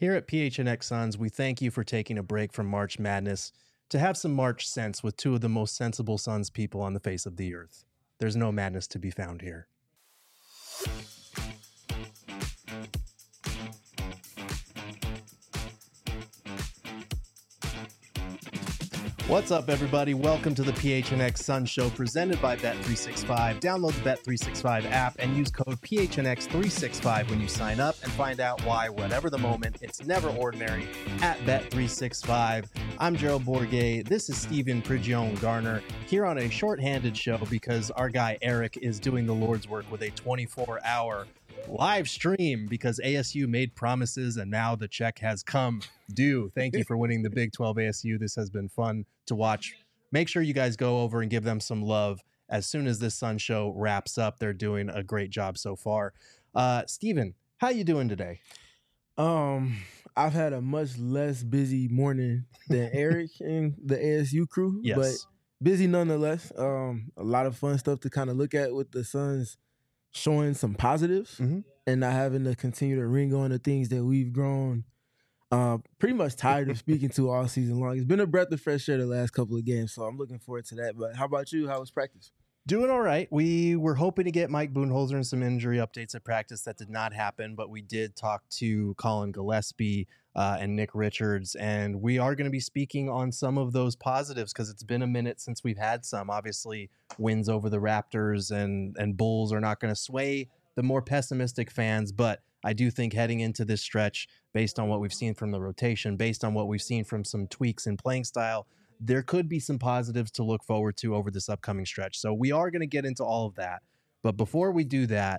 Here at PHNX Suns, we thank you for taking a break from March Madness to have some March sense with two of the most sensible Suns people on the face of the earth. There's no madness to be found here. What's up, everybody? Welcome to the PHNX Sun Show presented by Bet365. Download the Bet365 app and use code PHNX365 when you sign up and find out why, whatever the moment, it's never ordinary at Bet365. I'm Gerald Bourguet. This is Steven Prigione Garner here on a shorthanded show because our guy Eric is doing the Lord's work with a 24-hour live stream because ASU made promises and now the check has come due. Thank you for winning the Big 12 ASU. This has been fun to watch. Make sure you guys go over and give them some love as soon as this Sun Show wraps up. They're doing a great job so far. Steven, how you doing today? I've had a much less busy morning than Eric and the ASU crew, Yes. but busy nonetheless. A lot of fun stuff to kind of look at with the Suns showing some positives and not having to continue to ring on the things that we've grown pretty much tired of speaking to all season long. It's been a breath of fresh air the last couple of games, so I'm looking forward to that. But how about you? How was practice? Doing all right. We were hoping to get Mike Budenholzer and some injury updates at practice. That did not happen, but we did talk to Colin Gillespie and Nick Richards, and we are going to be speaking on some of those positives because it's been a minute since we've had some. Obviously, wins over the Raptors and Bulls are not going to sway the more pessimistic fans, but I do think heading into this stretch, based on what we've seen from the rotation, based on what we've seen from some tweaks in playing style, there could be some positives to look forward to over this upcoming stretch. So we are going to get into all of that. But before we do that,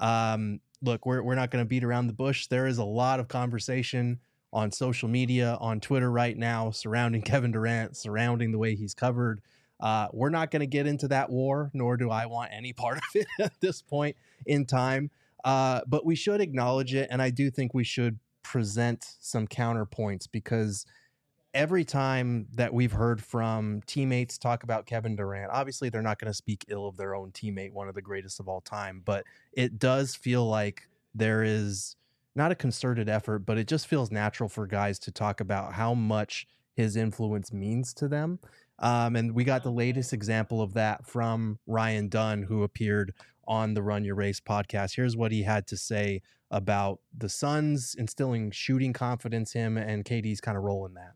look, we're not going to beat around the bush. There is a lot of conversation on social media, on Twitter right now, surrounding Kevin Durant, surrounding the way he's covered. We're not going to get into that war, nor do I want any part of it at this point in time. But we should acknowledge it, and I do think we should present some counterpoints because every time that we've heard from teammates talk about Kevin Durant, obviously they're not going to speak ill of their own teammate, one of the greatest of all time, but it does feel like there is not a concerted effort, but it just feels natural for guys to talk about how much his influence means to them. And we got the latest example of that from Ryan Dunn, who appeared on the Run Your Race podcast. Here's what he had to say about the Suns instilling shooting confidence in him and KD's kind of role in that.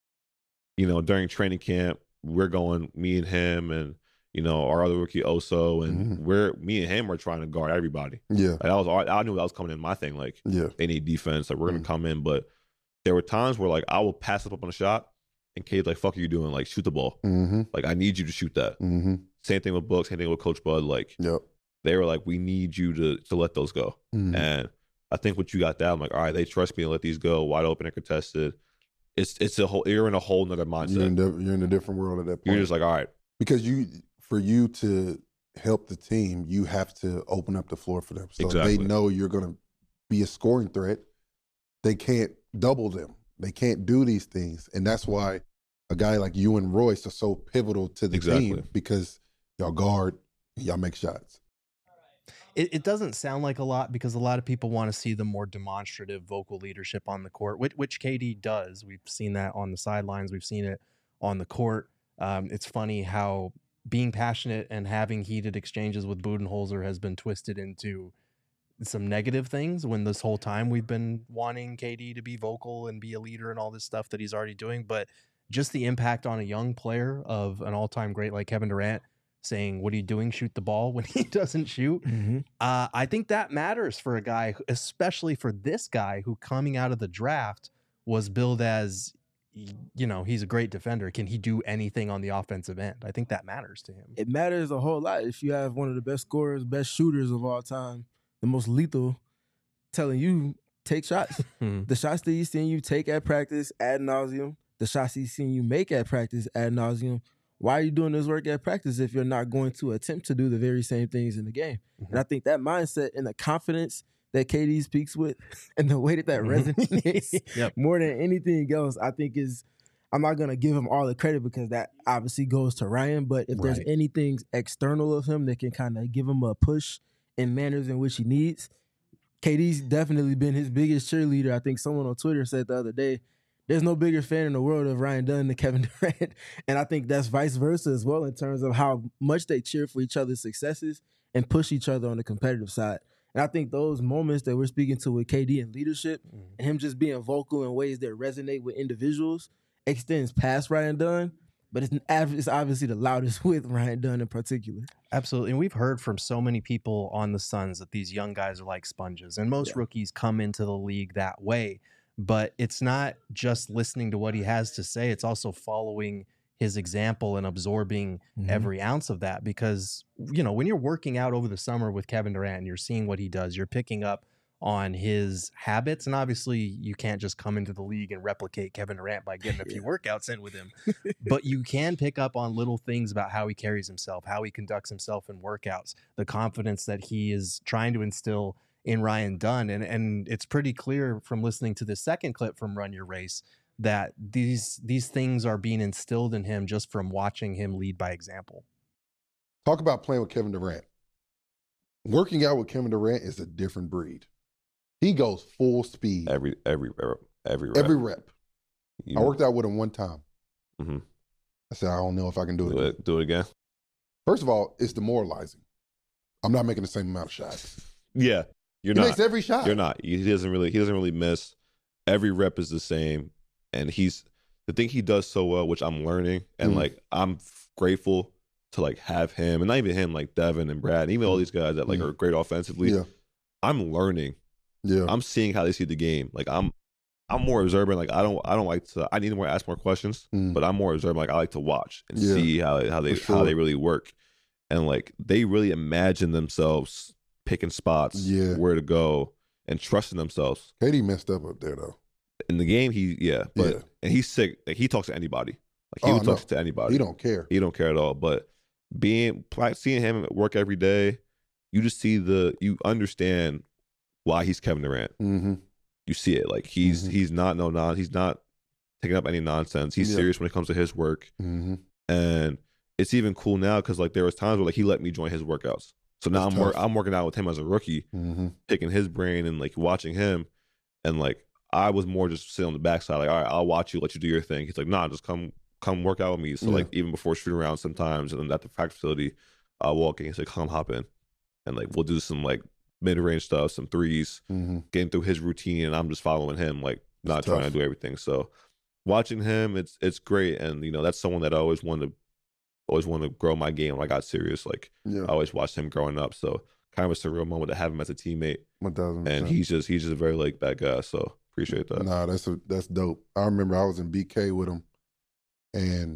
You know, during training camp, we're going, me and him and, you know, our other rookie Oso, and me and him are trying to guard everybody. Yeah. Like I knew that was coming in my thing. Like, they need defense. Like, we're going to come in. But there were times where, like, I will pass up on a shot, and Kade's like, fuck are you doing? Like, shoot the ball. Like, I need you to shoot that. Same thing with Book, same thing with Coach Bud. Like, they were like, we need you to let those go. And I think what you got that, I'm like, all right, they trust me to let these go, wide open and contested. It's a whole, you're in a whole nother mindset. You're in a different world at that point. You're just like, all right. Because for you to help the team, you have to open up the floor for them. So Exactly. they know you're going to be a scoring threat. They can't double them. They can't do these things. And that's why a guy like you and Royce are so pivotal to the team, because y'all guard, y'all make shots. It doesn't sound like a lot because a lot of people want to see the more demonstrative vocal leadership on the court, which KD does. We've seen that on the sidelines. We've seen it on the court. It's funny how being passionate and having heated exchanges with Budenholzer has been twisted into some negative things when this whole time we've been wanting KD to be vocal and be a leader and all this stuff that he's already doing. But just the impact on a young player of an all-time great like Kevin Durant, saying, what are you doing? Shoot the ball when he doesn't shoot. I think that matters for a guy, especially for this guy who coming out of the draft was billed as, you know, he's a great defender. Can he do anything on the offensive end? I think that matters to him. It matters a whole lot if you have one of the best scorers, best shooters of all time, the most lethal, telling you, take shots. The shots that he's seen you take at practice ad nauseum, the shots he's seen you make at practice ad nauseum. Why are you doing this work at practice if you're not going to attempt to do the very same things in the game? And I think that mindset and the confidence that KD speaks with and the way that resonates more than anything else, I think is, I'm not going to give him all the credit because that obviously goes to Ryan, but if there's anything external of him that can kind of give him a push in manners in which he needs, KD's definitely been his biggest cheerleader. I think someone on Twitter said the other day, there's no bigger fan in the world of Ryan Dunn than Kevin Durant. And I think that's vice versa as well in terms of how much they cheer for each other's successes and push each other on the competitive side. And I think those moments that we're speaking to with KD and leadership and him just being vocal in ways that resonate with individuals extends past Ryan Dunn, but it's obviously the loudest with Ryan Dunn in particular. Absolutely. And we've heard from so many people on the Suns that these young guys are like sponges. And most rookies come into the league that way. But it's not just listening to what he has to say. It's also following his example and absorbing every ounce of that. Because, you know, when you're working out over the summer with Kevin Durant and you're seeing what he does, you're picking up on his habits. And obviously you can't just come into the league and replicate Kevin Durant by getting a few workouts in with him. But you can pick up on little things about how he carries himself, how he conducts himself in workouts, the confidence that he is trying to instill in Ryan Dunn. And it's pretty clear from listening to the second clip from Run Your Race that these things are being instilled in him just from watching him lead by example. Talk about playing with Kevin Durant. Working out with Kevin Durant is a different breed. He goes full speed. Every rep. Every rep. I worked out with him one time. I said, I don't know if I can do it. Do it again. First of all, it's demoralizing. I'm not making the same amount of shots. Yeah. He makes every shot. You're not. He doesn't really miss. Every rep is the same, and the thing he does so well, which I'm learning, and like I'm grateful to like have him, and not even him, like Devin and Brad, and even all these guys that like are great offensively. Yeah. I'm learning. Yeah. I'm seeing how they see the game. Like I'm more observant. Like I don't like to. I need to ask more questions, but I'm more observant. Like I like to watch and see how they really work, and like they really imagine themselves picking spots, where to go, and trusting themselves. KD messed up there though. In the game, and he's sick. Like he talks to anybody. Like he would talk to anybody. He don't care. He don't care at all. But seeing him at work every day, you just see you understand why he's Kevin Durant. You see it. Like he's not he's not taking up any nonsense. He's serious when it comes to his work. And it's even cool now because like there was times where like he let me join his workouts. So now I'm working out with him as a rookie, picking his brain and like watching him, and like I was more just sitting on the backside, like, all right, I'll watch you, let you do your thing. He's like, nah, just come work out with me. So like even before shooting around sometimes, and then at the practice facility, I'll walk in. He's like, come hop in, and like we'll do some like mid-range stuff, some threes, getting through his routine, and I'm just following him, like not trying to do everything. So watching him, it's great, and you know that's someone that I always wanted to grow my game when I got serious. Like I always watched him growing up, so kind of a surreal moment to have him as a teammate. 1000%. And he's just a very like that guy. So appreciate that. Nah, that's dope. I remember I was in BK with him, and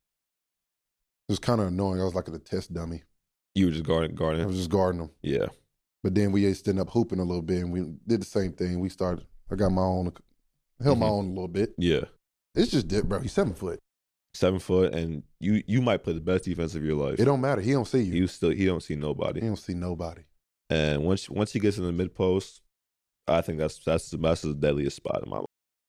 it was kind of annoying. I was like a test dummy. You were just guarding. I was just guarding him. Yeah. But then we ended up hooping a little bit, and we did the same thing. I got my own, held my own a little bit. Yeah. It's just bro. He's 7 foot. 7 foot, and you might play the best defense of your life. It don't matter. He don't see you. He don't see nobody. He don't see nobody. And once he gets in the mid post, I think that's the deadliest spot in my life.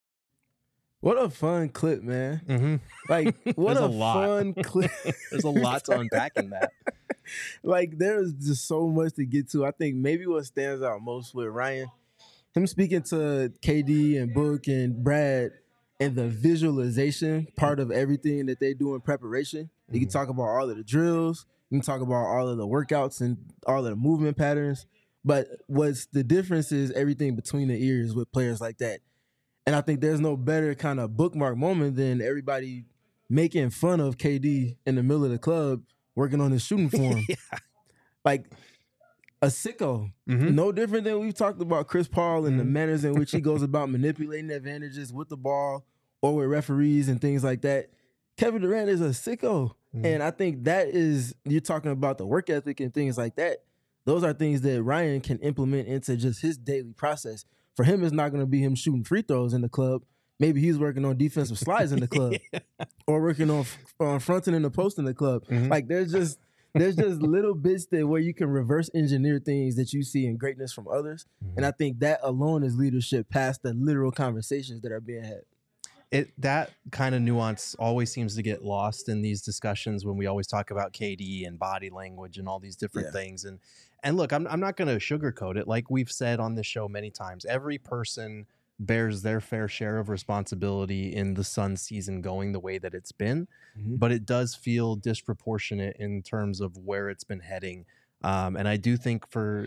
What a fun clip, man! Like what a fun clip. There's a lot to unpack in that. Like there's just so much to get to. I think maybe what stands out most with Ryan, him speaking to KD and Book and Brad. And the visualization part of everything that they do in preparation. You can talk about all of the drills. You can talk about all of the workouts and all of the movement patterns. But what's the difference is everything between the ears with players like that. And I think there's no better kind of bookmark moment than everybody making fun of KD in the middle of the club working on his shooting form. Like a sicko. No different than we've talked about Chris Paul and the manners in which he goes about manipulating advantages with the ball or with referees and things like that. Kevin Durant is a sicko. And I think that is, you're talking about the work ethic and things like that. Those are things that Ryan can implement into just his daily process. For him, it's not going to be him shooting free throws in the club. Maybe he's working on defensive slides in the club or working on fronting in the post in the club. Like there's just little bits where you can reverse engineer things that you see in greatness from others. And I think that alone is leadership past the literal conversations that are being had. that kind of nuance always seems to get lost in these discussions when we always talk about KD and body language and all these different things. And look, I'm not going to sugarcoat it. Like we've said on this show many times, every person bears their fair share of responsibility in the Suns season going the way that it's been, but it does feel disproportionate in terms of where it's been heading. And I do think for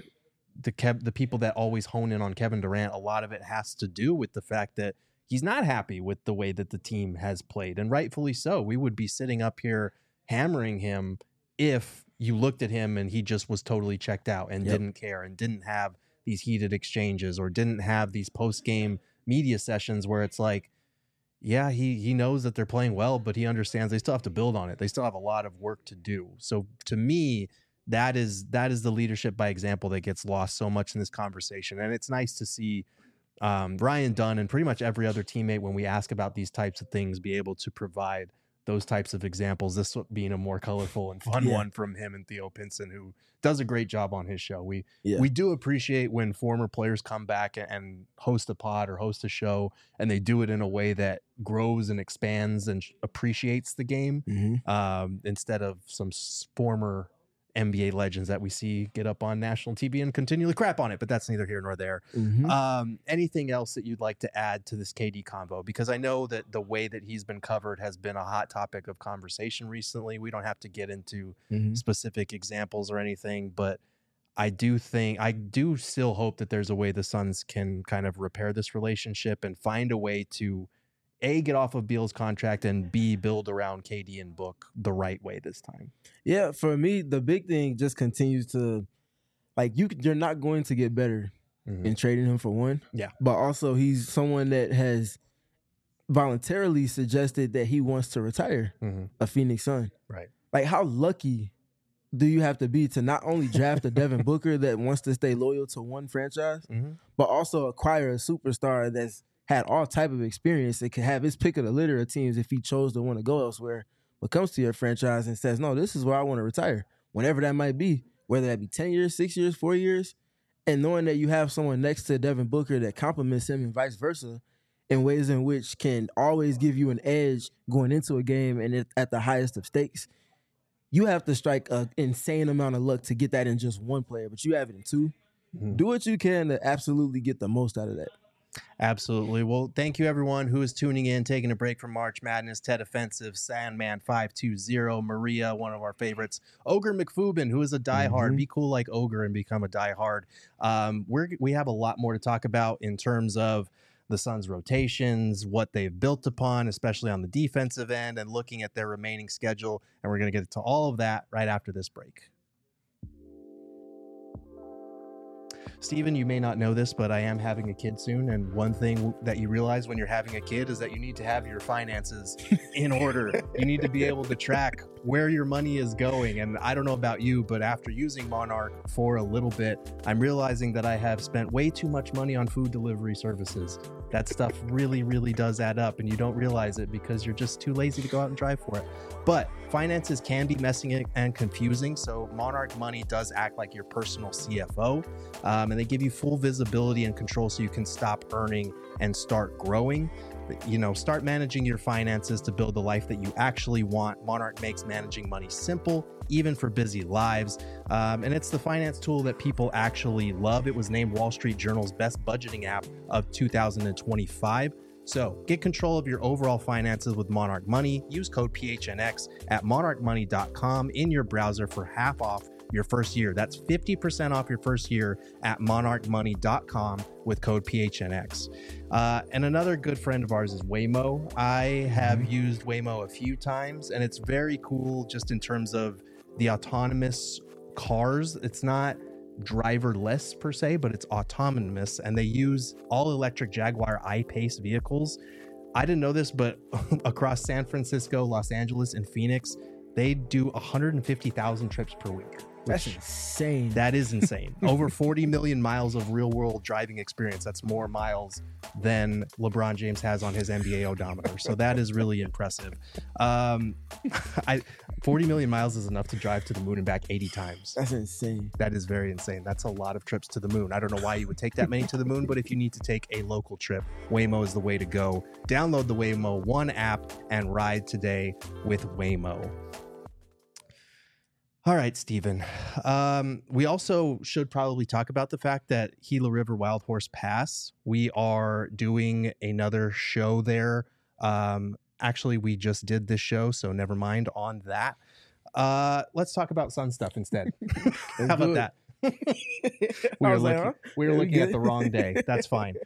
the people that always hone in on Kevin Durant, a lot of it has to do with the fact that he's not happy with the way that the team has played, and rightfully so. We would be sitting up here hammering him if you looked at him and he just was totally checked out and didn't care and didn't have these heated exchanges or didn't have these post-game media sessions where it's like, yeah, he knows that they're playing well, but he understands they still have to build on it. They still have a lot of work to do. So to me, that is the leadership by example that gets lost so much in this conversation. And it's nice to see Ryan Dunn and pretty much every other teammate, when we ask about these types of things, be able to provide those types of examples, this being a more colorful and fun one from him and Theo Pinson, who does a great job on his show. We do appreciate when former players come back and host a pod or host a show, and they do it in a way that grows and expands and appreciates the game, instead of some former NBA legends that we see get up on national TV and continually crap on it, but that's neither here nor there. Anything else that you'd like to add to this KD convo? Because I know that the way that he's been covered has been a hot topic of conversation recently. We don't have to get into specific examples or anything, but I do still hope that there's a way the Suns can kind of repair this relationship and find a way to A, get off of Beal's contract, and B, build around KD and Book the right way this time. Yeah, for me, the big thing just continues to, like, you're not going to get better in trading him for one. Yeah. But also he's someone that has voluntarily suggested that he wants to retire a Phoenix Sun. Right. Like, how lucky do you have to be to not only draft a Devin Booker that wants to stay loyal to one franchise, but also acquire a superstar that's had all type of experience that could have his pick of the litter of teams if he chose to want to go elsewhere, but comes to your franchise and says, no, this is where I want to retire, whenever that might be, whether that be 10 years, 6 years, 4 years, and knowing that you have someone next to Devin Booker that compliments him and vice versa in ways in which can always give you an edge going into a game and at the highest of stakes. You have to strike an insane amount of luck to get that in just one player, but you have it in two. Do what you can to absolutely get the most out of that. Absolutely. Well, thank you everyone who is tuning in, taking a break from March Madness. Ted Offensive, Sandman 520, Maria, one of our favorites, Ogre McFubin, who is a diehard. Be cool like Ogre and become a diehard. We have a lot more to talk about in terms of the Suns' rotations, what they've built upon, especially on the defensive end, and looking at their remaining schedule. And we're going to get to all of that right after this break. Steven, you may not know this, but I am having a kid soon. And one thing that you realize when you're having a kid is that you need to have your finances in order. You need to be able to track where your money is going. And I don't know about you, but after using Monarch for a little bit, I'm realizing that I have spent way too much money on food delivery services. That stuff really, really does add up, and you don't realize it because you're just too lazy to go out and drive for it. But finances can be messy and confusing, so Monarch Money does act like your personal CFO, and they give you full visibility and control so you can stop earning and start growing. You know, start managing your finances to build the life that you actually want. Monarch makes managing money simple, even for busy lives. And it's the finance tool that people actually love. It was named Wall Street Journal's best budgeting app of 2025. So get control of your overall finances with Monarch Money. Use code PHNX at monarchmoney.com in your browser for half off your first year. That's 50% off your first year at monarchmoney.com with code PHNX. And another good friend of ours is Waymo. I have used Waymo a few times, and it's very cool just in terms of the autonomous cars. It's not driverless per se, but it's autonomous, and they use all electric Jaguar I-Pace vehicles. I didn't know this, but across San Francisco, Los Angeles, and Phoenix, they do 150,000 trips per week. That's insane. That is insane. Over 40 million miles of real world driving experience. That's more miles than LeBron James has on his NBA odometer. So that is really impressive. 40 million miles is enough to drive to the moon and back 80 times. That's insane. That is very insane. That's a lot of trips to the moon. I don't know why you would take that many to the moon, but if you need to take a local trip, Waymo is the way to go. Download the Waymo One app and ride today with Waymo. All right, Steven. We also should probably talk about the fact that Gila River Wild Horse Pass, we are doing another show there. Actually, we just did this show, so never mind on that. Let's talk about Sun stuff instead. How about that? We were looking at the wrong day. That's fine.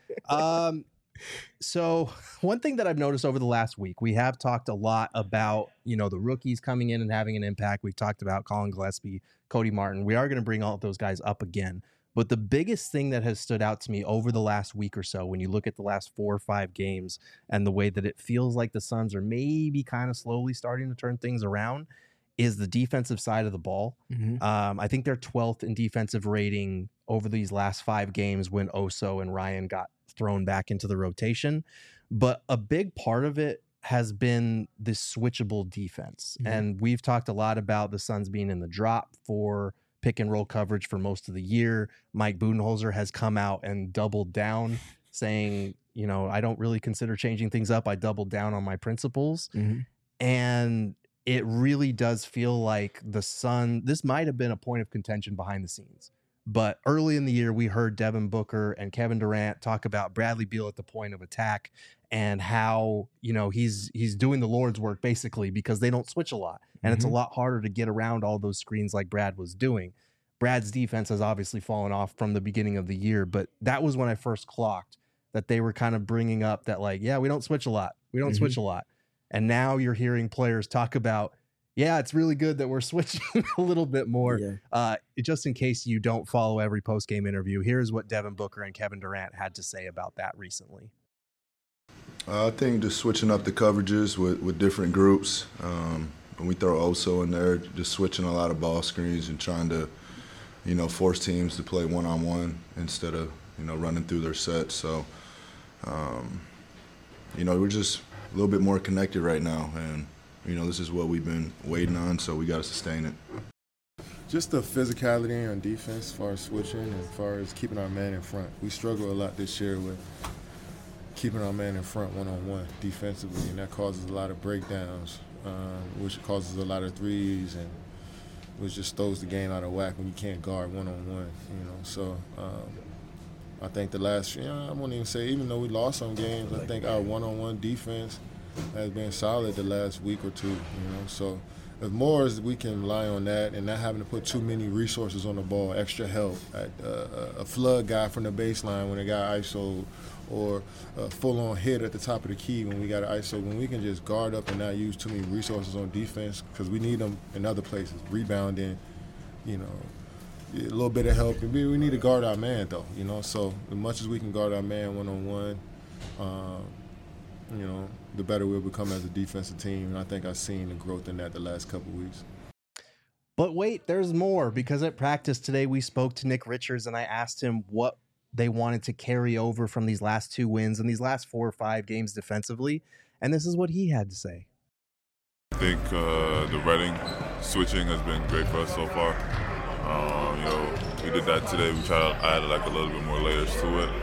So one thing that I've noticed over the last week, we have talked a lot about, the rookies coming in and having an impact. We've talked about Colin Gillespie, Cody Martin. We are going to bring all of those guys up again. But the biggest thing that has stood out to me over the last week or so, when you look at the last 4 or 5 games and the way that it feels like the Suns are maybe kind of slowly starting to turn things around, is the defensive side of the ball. I think they're 12th in defensive rating over these last 5 games when Oso and Ryan got thrown back into the rotation. But a big part of it has been this switchable defense. And we've talked a lot about the Suns being in the drop for pick and roll coverage for most of the year. Mike Budenholzer has come out and doubled down, saying, I don't really consider changing things up. I doubled down on my principles. And it really does feel like the Sun, this might have been a point of contention behind the scenes. But early in the year, we heard Devin Booker and Kevin Durant talk about Bradley Beal at the point of attack and how, he's doing the Lord's work basically because they don't switch a lot. And it's a lot harder to get around all those screens like Brad was doing. Brad's defense has obviously fallen off from the beginning of the year, but that was when I first clocked that they were kind of bringing up that we don't switch a lot. We don't switch a lot. And now you're hearing players talk about, it's really good that we're switching a little bit more. Just in case you don't follow every post-game interview, here's what Devin Booker and Kevin Durant had to say about that recently. I think just switching up the coverages with different groups. When we throw Oso in there, just switching a lot of ball screens and trying to, force teams to play one-on-one instead of, running through their sets. So, we're just a little bit more connected right now. And, this is what we've been waiting on, so we got to sustain it. Just the physicality on defense as far as switching and as far as keeping our man in front. We struggle a lot this year with keeping our man in front one-on-one defensively, and that causes a lot of breakdowns, which causes a lot of threes, and which just throws the game out of whack when you can't guard one-on-one, So I think the last, I won't even say, even though we lost some games, I think our one-on-one defense has been solid the last week or two, So as more as we can rely on that and not having to put too many resources on the ball, extra help, a flood guy from the baseline when a guy ISO, or a full-on hit at the top of the key when we got an ISO, when we can just guard up and not use too many resources on defense because we need them in other places, rebounding, a little bit of help. And we need to guard our man, though, So as much as we can guard our man one-on-one, the better we'll become as a defensive team. And I think I've seen the growth in that the last couple of weeks. But wait, there's more, because at practice today we spoke to Nick Richards and I asked him what they wanted to carry over from these last 2 wins and these last 4 or 5 games defensively. And this is what he had to say. I think the Reading switching has been great for us so far. We did that today. We tried to add a little bit more layers to it.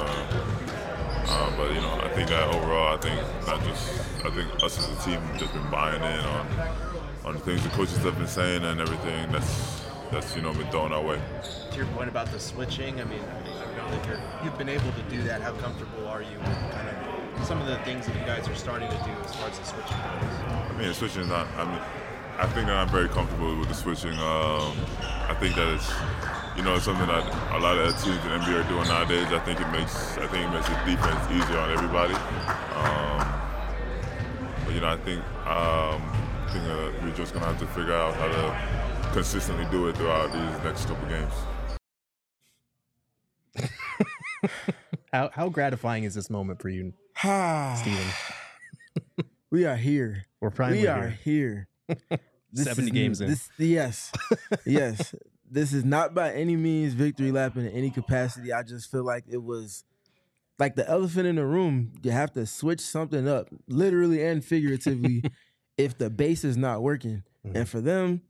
But I think that overall, I think us as a team have just been buying in on the things the coaches have been saying and everything that's been thrown our way. To your point about the switching, I know that you've been able to do that. How comfortable are you with kind of some of the things that you guys are starting to do as far as the switching goes? Switching is not. I think that I'm very comfortable with the switching. I think that it's something that a lot of teams in the NBA are doing nowadays. I think it makes the defense easier on everybody. But I think we're just gonna have to figure out how to consistently do it throughout these next couple games. How gratifying is this moment for you, Steven? We are here. We're finally here. 70 games in. Yes. This is not by any means victory lapping in any capacity. I just feel like it was like the elephant in the room. You have to switch something up, literally and figuratively, if the base is not working. And for them,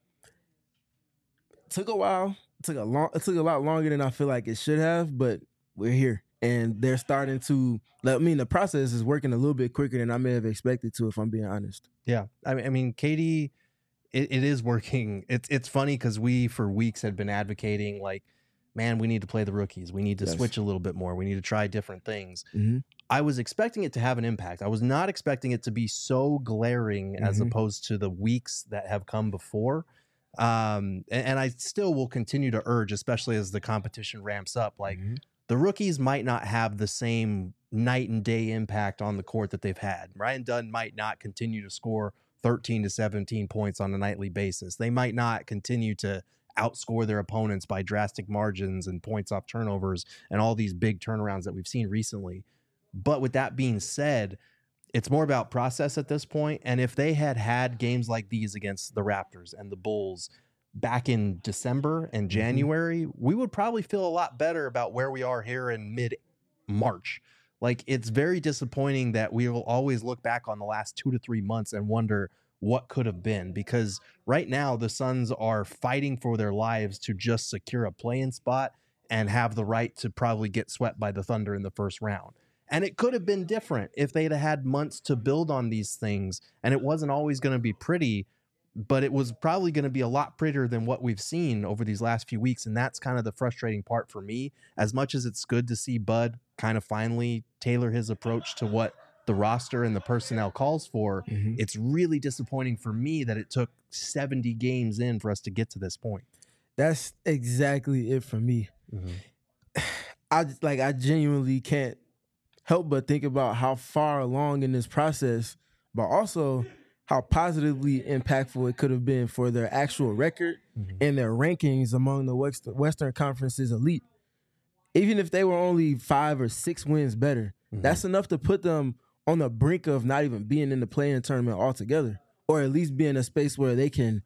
it took a while. It took a lot longer than I feel like it should have, but we're here. And they're starting to, the process is working a little bit quicker than I may have expected to, if I'm being honest. Yeah. I mean, KD, it is working. It's funny because we, for weeks, had been advocating, like, man, we need to play the rookies. We need to switch a little bit more. We need to try different things. I was expecting it to have an impact. I was not expecting it to be so glaring as opposed to the weeks that have come before. And I still will continue to urge, especially as the competition ramps up, like the rookies might not have the same night and day impact on the court that they've had. Ryan Dunn might not continue to score 13 to 17 points on a nightly basis. They might not continue to outscore their opponents by drastic margins and points off turnovers and all these big turnarounds that we've seen recently. But with that being said, it's more about process at this point. And if they had games like these against the Raptors and the Bulls back in December and January, we would probably feel a lot better about where we are here in mid-March. Like, it's very disappointing that we will always look back on the last 2 to 3 months and wonder what could have been, because right now the Suns are fighting for their lives to just secure a play-in spot and have the right to probably get swept by the Thunder in the first round. And it could have been different if they'd had months to build on these things, and it wasn't always going to be pretty, but it was probably going to be a lot prettier than what we've seen over these last few weeks. And that's kind of the frustrating part for me. As much as it's good to see Bud kind of finally tailor his approach to what the roster and the personnel calls for, it's really disappointing for me that it took 70 games in for us to get to this point. That's exactly it for me. I genuinely can't help but think about how far along in this process, but also how positively impactful it could have been for their actual record and their rankings among the Western Conference's elite. Even if they were only 5 or 6 wins better, that's enough to put them on the brink of not even being in the play-in tournament altogether, or at least be in a space where they can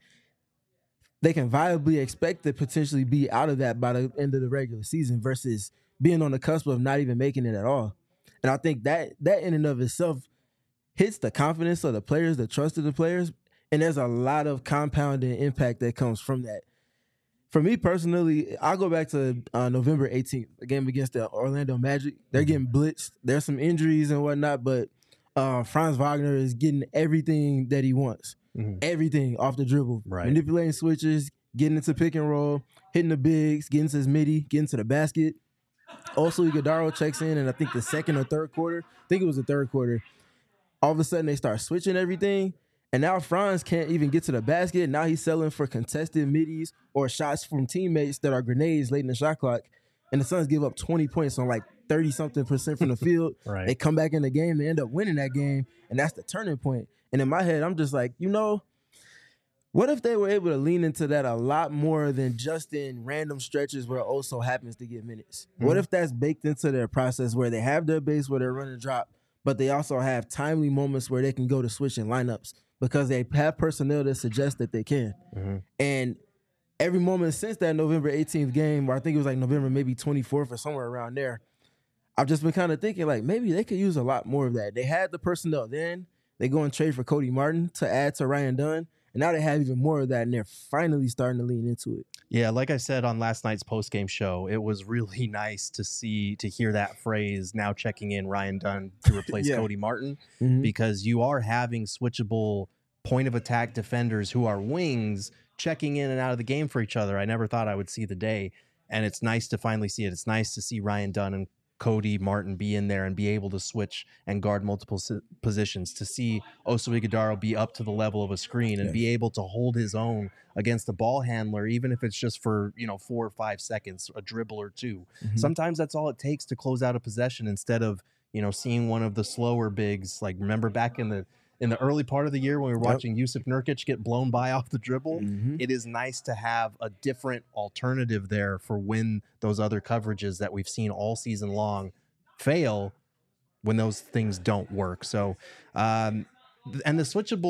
viably expect to potentially be out of that by the end of the regular season versus being on the cusp of not even making it at all. And I think that in and of itself hits the confidence of the players, the trust of the players, and there's a lot of compounding impact that comes from that. For me personally, I'll go back to November 18th, a game against the Orlando Magic. They're getting blitzed. There's some injuries and whatnot, but Franz Wagner is getting everything that he wants. Everything off the dribble. Manipulating switches, getting into pick and roll, hitting the bigs, getting to his midi, getting to the basket. Also, Iguodala checks in, and I think the second or third quarter, all of a sudden they start switching everything. And now Franz can't even get to the basket. Now he's selling for contested middies or shots from teammates that are grenades late in the shot clock. And the Suns give up 20 points on like 30-something% from the field. They come back in the game. They end up winning that game. And that's the turning point. And in my head, I'm just like, what if they were able to lean into that a lot more than just in random stretches where Oso happens to get minutes? What if that's baked into their process where they have their base where they're running drop, but they also have timely moments where they can go to switching lineups because they have personnel that suggest that they can. And every moment since that November 18th game, or I think it was like November maybe 24th or somewhere around there, I've just been kind of thinking like maybe they could use a lot more of that. They had the personnel then. They go and trade for Cody Martin to add to Ryan Dunn. And now they have even more of that, and they're finally starting to lean into it. Yeah, like I said on last night's postgame show, it was really nice to hear that phrase, now checking in Ryan Dunn to replace Cody Martin, because you are having switchable point-of-attack defenders who are wings checking in and out of the game for each other. I never thought I would see the day, and it's nice to finally see it. It's nice to see Ryan Dunn and Cody Martin be in there and be able to switch and guard multiple positions, to see Oso Iguodala be up to the level of a screen and be able to hold his own against a ball handler, even if it's just for 4 or 5 seconds, a dribble or two. Sometimes that's all it takes to close out a possession instead of seeing one of the slower bigs. Like, remember back in the early part of the year when we were watching Yusuf Nurkic get blown by off the dribble, it is nice to have a different alternative there for when those other coverages that we've seen all season long fail, when those things don't work. So, and the switchable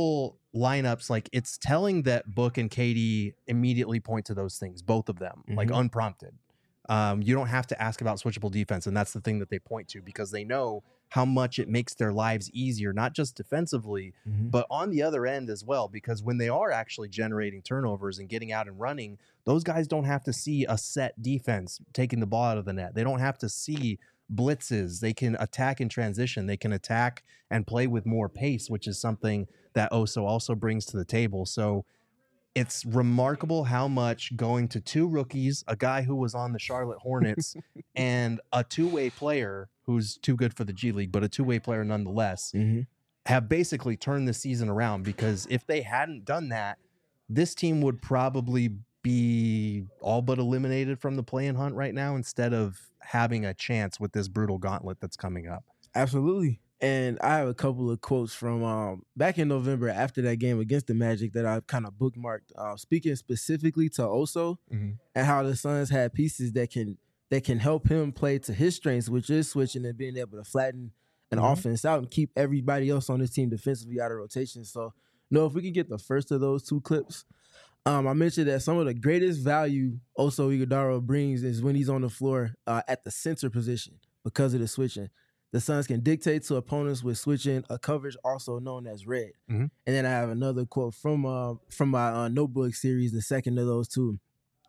lineups, like it's telling that Book and KD immediately point to those things, both of them, like unprompted. You don't have to ask about switchable defense, and that's the thing that they point to because they know how much it makes their lives easier, not just defensively, but on the other end as well, because when they are actually generating turnovers and getting out and running, those guys don't have to see a set defense taking the ball out of the net. They don't have to see blitzes. They can attack in transition. They can attack and play with more pace, which is something that Oso also brings to the table. So it's remarkable how much going to two rookies, a guy who was on the Charlotte Hornets, and a two-way player who's too good for the G League, but a two-way player nonetheless, have basically turned the season around. Because if they hadn't done that, this team would probably be all but eliminated from the play-in hunt right now instead of having a chance with this brutal gauntlet that's coming up. Absolutely. And I have a couple of quotes from back in November after that game against the Magic that I've kind of bookmarked, speaking specifically to Oso and how the Suns had pieces that can help him play to his strengths, which is switching and being able to flatten an offense out and keep everybody else on his team defensively out of rotation. So, no, if we can get the first of those two clips, I mentioned that some of the greatest value Oso Ighodaro brings is when he's on the floor at the center position because of the switching. The Suns can dictate to opponents with switching a coverage also known as red. And then I have another quote from my notebook series, the second of those two,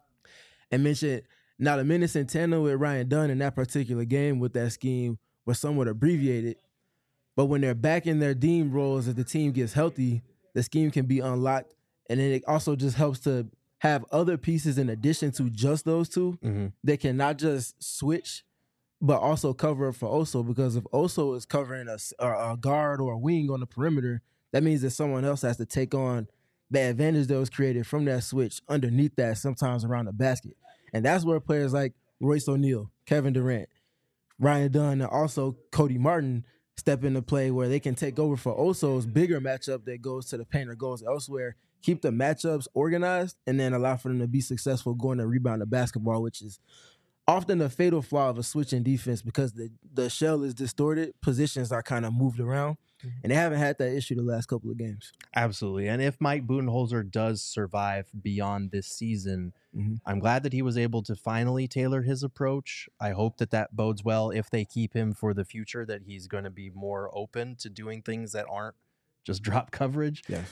and mentioned now the minutes in tandem with Ryan Dunn in that particular game with that scheme were somewhat abbreviated, but when they're back in their deemed roles as the team gets healthy, the scheme can be unlocked, and then it also just helps to have other pieces in addition to just those two that can not just switch but also cover up for Oso, because if Oso is covering a guard or a wing on the perimeter, that means that someone else has to take on the advantage that was created from that switch underneath that, sometimes around the basket. And that's where players like Royce O'Neal, Kevin Durant, Ryan Dunn, and also Cody Martin step into play where they can take over for Oso's bigger matchup that goes to the paint or goes elsewhere, keep the matchups organized, and then allow for them to be successful going to rebound the basketball, which is often a fatal flaw of a switching defense because the shell is distorted, positions are kind of moved around, and they haven't had that issue the last couple of games. Absolutely. And if Mike Budenholzer does survive beyond this season, I'm glad that he was able to finally tailor his approach. I hope that bodes well if they keep him for the future, that he's going to be more open to doing things that aren't just drop coverage. Yes.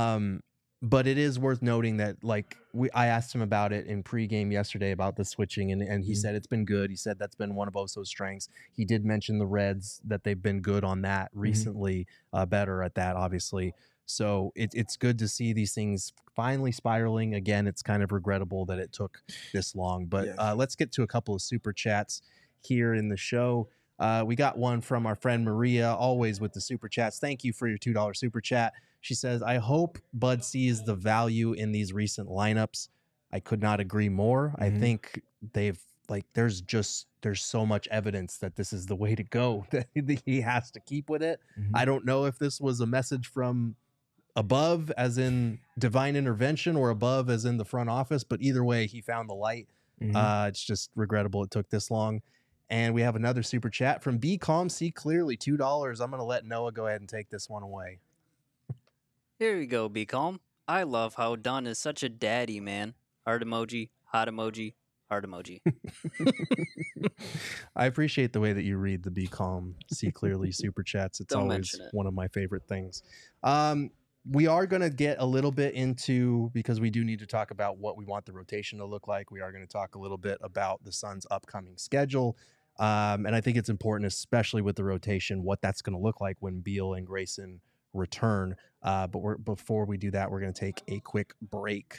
But it is worth noting that, like, I asked him about it in pregame yesterday about the switching, and he said it's been good. He said that's been one of Oso's strengths. He did mention the Reds, that they've been good on that recently, better at that, obviously. So it's good to see these things finally spiraling. Again, it's kind of regrettable that it took this long. But let's get to a couple of super chats here in the show. We got one from our friend Maria, always with the super chats. Thank you for your $2 super chat. She says, I hope Bud sees the value in these recent lineups. I could not agree more. I think there's so much evidence that this is the way to go, that he has to keep with it. I don't know if this was a message from above, as in divine intervention, or above as in the front office, but either way, he found the light. It's just regrettable it took this long. And we have another super chat from Be Calm, See Clearly, $2. I'm going to let Noah go ahead and take this one away. Here we go, Be Calm. I love how Dunn is such a daddy, man. Heart emoji, hot emoji, heart emoji. I appreciate the way that you read the Be Calm, See Clearly super chats. It's always one of my favorite things. We are going to get a little bit into, because we do need to talk about what we want the rotation to look like. We are going to talk a little bit about the Suns' upcoming schedule. And I think it's important, especially with the rotation, what that's going to look like when Beal and Grayson return. But before we do that, we're going to take a quick break.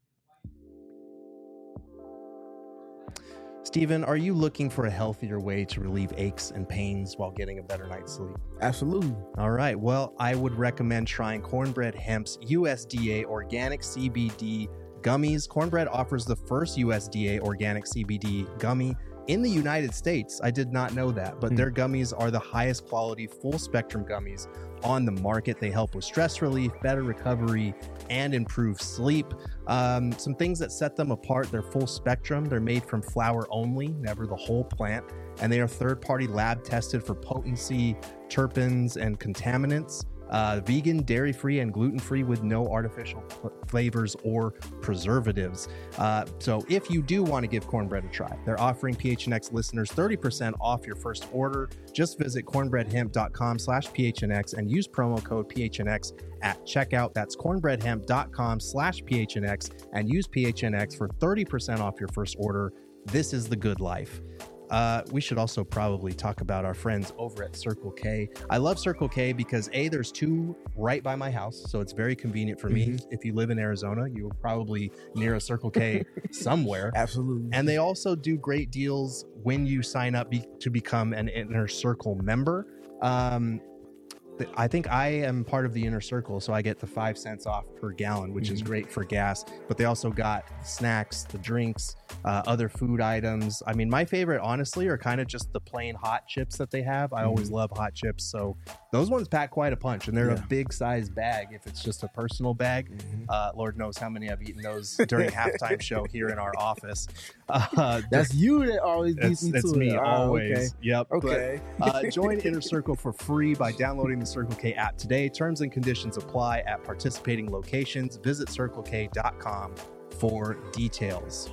Steven, are you looking for a healthier way to relieve aches and pains while getting a better night's sleep? Absolutely. All right. Well, I would recommend trying Cornbread Hemp's USDA Organic CBD Gummies. Cornbread offers the first USDA Organic CBD gummy in the United States. I did not know that, but their gummies are the highest quality full spectrum gummies on the market. They help with stress relief, better recovery, and improve sleep. Some things that set them apart: they're full spectrum. They're made from flower only, never the whole plant. And they are third-party lab tested for potency, terpenes, and contaminants. vegan, dairy-free, and gluten-free with no artificial flavors or preservatives. So if you do want to give Cornbread a try, they're offering PHNX listeners 30% off your first order. Just visit cornbreadhemp.com/PHNX and use promo code PHNX at checkout. That's cornbreadhemp.com/PHNX and use PHNX for 30% off your first order. This is the good life. We should also probably talk about our friends over at Circle K. I love Circle K because there's 2 right by my house, so it's very convenient for me. If you live in Arizona, you're probably near a Circle K somewhere. Absolutely. And they also do great deals when you sign up to become an Inner Circle member. I think I am part of the Inner Circle, so I get the 5 cents off per gallon, which is great for gas. But they also got the snacks, the drinks, other food items. I mean, my favorite, honestly, are kind of just the plain hot chips that they have. I always love hot chips, so those ones pack quite a punch, and they're a big size bag if it's just a personal bag. Lord knows how many I've eaten those during halftime show here in our office. That's you that always beats me to it. It's me, always. Okay. Yep. Okay. But, join Inner Circle for free by downloading the Circle K app today. Terms and conditions apply at participating locations. Visit CircleK.com for details.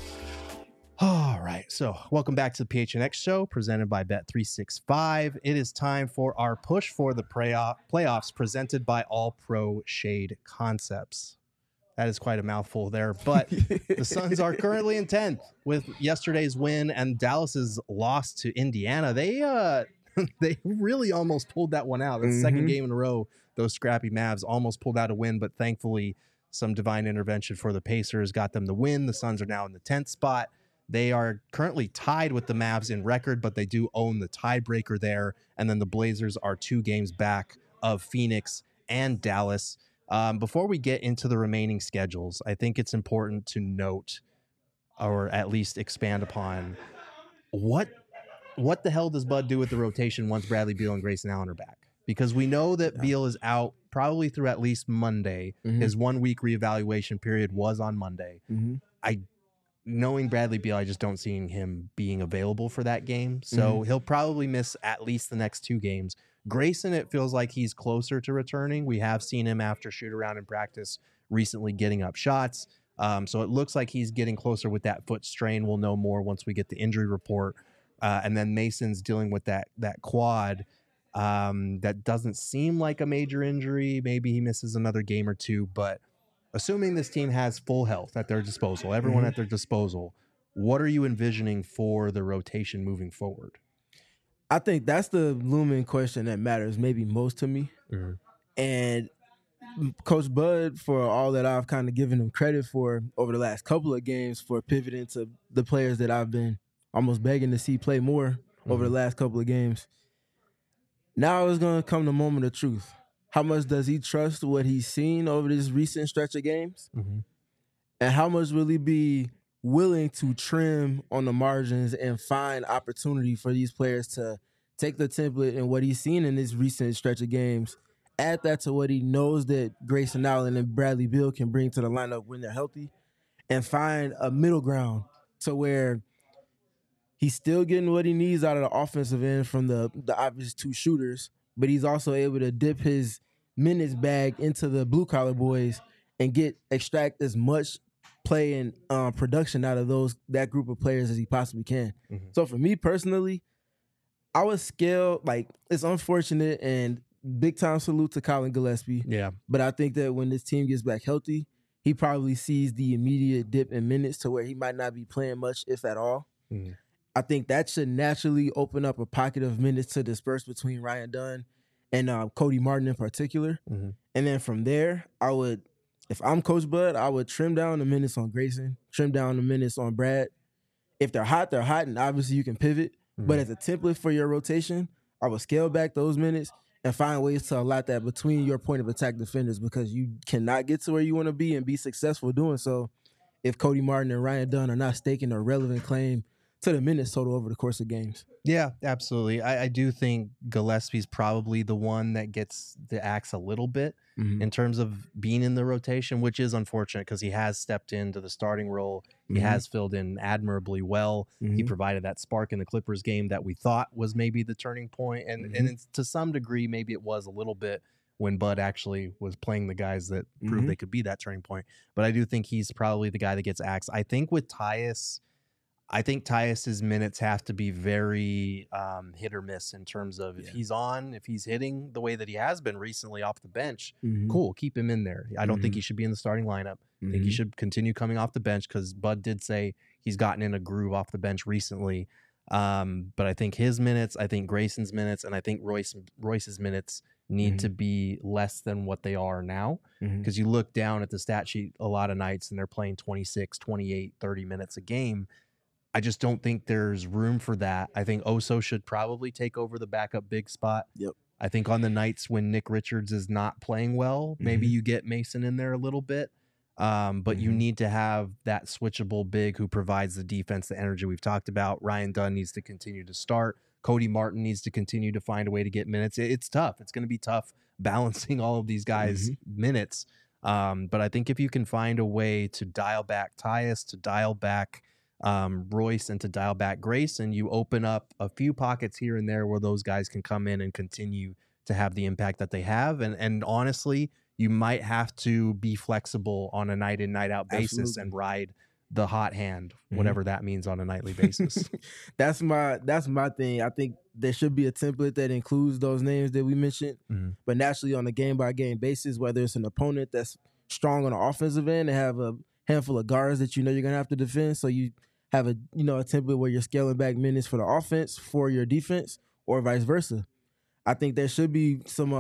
All right, so welcome back to the PHNX show presented by Bet365. It is time for our push for the playoffs presented by All Pro Shade Concepts. That is quite a mouthful there, but the Suns are currently in 10th with yesterday's win and Dallas's loss to Indiana. They really almost pulled that one out. The second game in a row, those scrappy Mavs almost pulled out a win, but thankfully some divine intervention for the Pacers got them the win. The Suns are now in the 10th spot. They are currently tied with the Mavs in record, but they do own the tiebreaker there. And then the Blazers are 2 games back of Phoenix and Dallas. Before we get into the remaining schedules, I think it's important to note, or at least expand upon, what the hell does Bud do with the rotation once Bradley Beal and Grayson Allen are back? Because we know that Beal is out probably through at least Monday. His 1-week reevaluation period was on Monday. Knowing Bradley Beal, I just don't see him being available for that game. So he'll probably miss at least the next 2 games. Grayson, it feels like he's closer to returning. We have seen him after shoot around in practice recently getting up shots. So it looks like he's getting closer with that foot strain. We'll know more once we get the injury report. And then Mason's dealing with that quad. That doesn't seem like a major injury. Maybe he misses another game or 2, but assuming this team has full health at their disposal, everyone at their disposal, what are you envisioning for the rotation moving forward? I think that's the looming question that matters maybe most to me. And Coach Bud, for all that I've kind of given him credit for over the last couple of games for pivoting to the players that I've been almost begging to see play more over the last couple of games. Now is going to come the moment of truth. How much does he trust what he's seen over this recent stretch of games? And how much will he be willing to trim on the margins and find opportunity for these players to take the template and what he's seen in this recent stretch of games, add that to what he knows that Grayson Allen and Bradley Beal can bring to the lineup when they're healthy, and find a middle ground to where he's still getting what he needs out of the offensive end from the obvious 2 shooters, but he's also able to dip his minutes bag into the blue-collar boys and extract as much play and production out of that group of players as he possibly can. So for me personally, I would scale, it's unfortunate and big-time salute to Colin Gillespie. Yeah. But I think that when this team gets back healthy, he probably sees the immediate dip in minutes to where he might not be playing much, if at all. I think that should naturally open up a pocket of minutes to disperse between Ryan Dunn and Cody Martin in particular. And then from there, if I'm Coach Bud, I would trim down the minutes on Grayson, trim down the minutes on Brad. If they're hot, and obviously you can pivot. But as a template for your rotation, I would scale back those minutes and find ways to allot that between your point of attack defenders, because you cannot get to where you want to be and be successful doing so if Cody Martin and Ryan Dunn are not staking a relevant claim to the minutes total over the course of games. Yeah, absolutely. I do think Gillespie's probably the one that gets the axe a little bit in terms of being in the rotation, which is unfortunate because he has stepped into the starting role. He has filled in admirably well. He provided that spark in the Clippers game that we thought was maybe the turning point. And to some degree, maybe it was a little bit when Bud actually was playing the guys that proved they could be that turning point. But I do think he's probably the guy that gets axed. I think with Tyus, Tyus's minutes have to be very hit or miss in terms of if he's hitting the way that he has been recently off the bench, cool, keep him in there. I don't think he should be in the starting lineup. I think he should continue coming off the bench because Bud did say he's gotten in a groove off the bench recently. But I think his minutes, I think Grayson's minutes, and I think Royce's minutes need to be less than what they are now. Because you look down at the stat sheet a lot of nights and they're playing 26, 28, 30 minutes a game. I just don't think there's room for that. I think Oso should probably take over the backup big spot. Yep. I think on the nights when Nick Richards is not playing well, maybe you get Mason in there a little bit. But you need to have that switchable big who provides the defense, the energy we've talked about. Ryan Dunn needs to continue to start. Cody Martin needs to continue to find a way to get minutes. It's tough. It's going to be tough balancing all of these guys' minutes. But I think if you can find a way to dial back Tyus, to dial back Royce, and to dial back Grayson, you open up a few pockets here and there where those guys can come in and continue to have the impact that they have. And honestly, you might have to be flexible on a night in, night out basis and ride the hot hand, whatever that means on a nightly basis. That's my thing. I think there should be a template that includes those names that we mentioned, but naturally on a game by game basis, whether it's an opponent that's strong on the offensive end and have a handful of guards that you know you're gonna have to defend, so you have a template where you're scaling back minutes for the offense for your defense, or vice versa. I think there should be some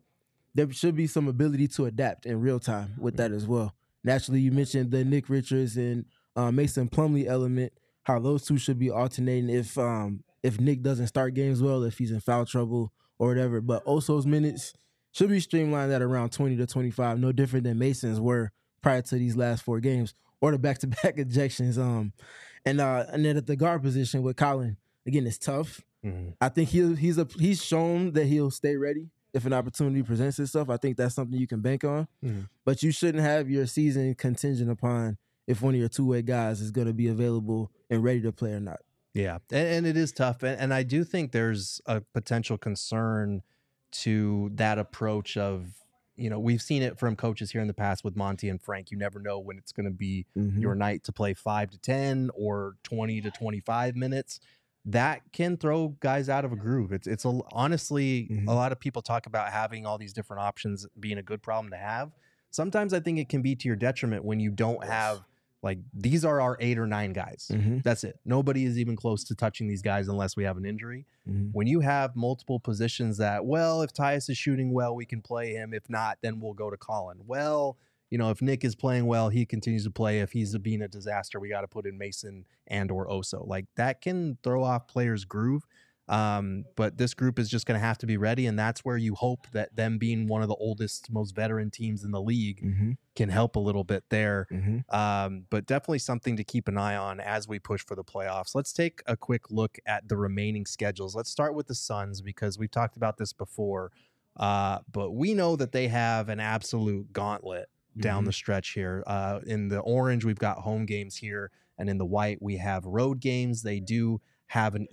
ability to adapt in real time with that as well. Naturally, you mentioned the Nick Richards and Mason Plumlee element, how those two should be alternating if Nick doesn't start games well, if he's in foul trouble or whatever. But Oso's minutes should be streamlined at around 20 to 25, no different than Mason's were prior to these last 4 games, or the back-to-back ejections. And then at the guard position with Colin, again, it's tough. I think he's shown that he'll stay ready if an opportunity presents itself. I think that's something you can bank on. But you shouldn't have your season contingent upon if one of your two-way guys is going to be available and ready to play or not. Yeah, and it is tough. And I do think there's a potential concern to that approach of, we've seen it from coaches here in the past with Monty and Frank. You never know when it's going to be your night to play 5 to 10 or 20 to 25 minutes. That can throw guys out of a groove. Honestly, a lot of people talk about having all these different options being a good problem to have. Sometimes I think it can be to your detriment when you don't have, these are our 8 or 9 guys. That's it. Nobody is even close to touching these guys unless we have an injury. When you have multiple positions that, if Tyus is shooting well, we can play him. If not, then we'll go to Colin. If Nick is playing well, he continues to play. If he's being a disaster, we got to put in Mason and or Oso. That can throw off players' groove. But this group is just going to have to be ready, and that's where you hope that them being one of the oldest, most veteran teams in the league can help a little bit there. But definitely something to keep an eye on as we push for the playoffs. Let's take a quick look at the remaining schedules. Let's start with the Suns because we've talked about this before, but we know that they have an absolute gauntlet down the stretch here. In the orange, we've got home games here, and in the white, we have road games. They do have not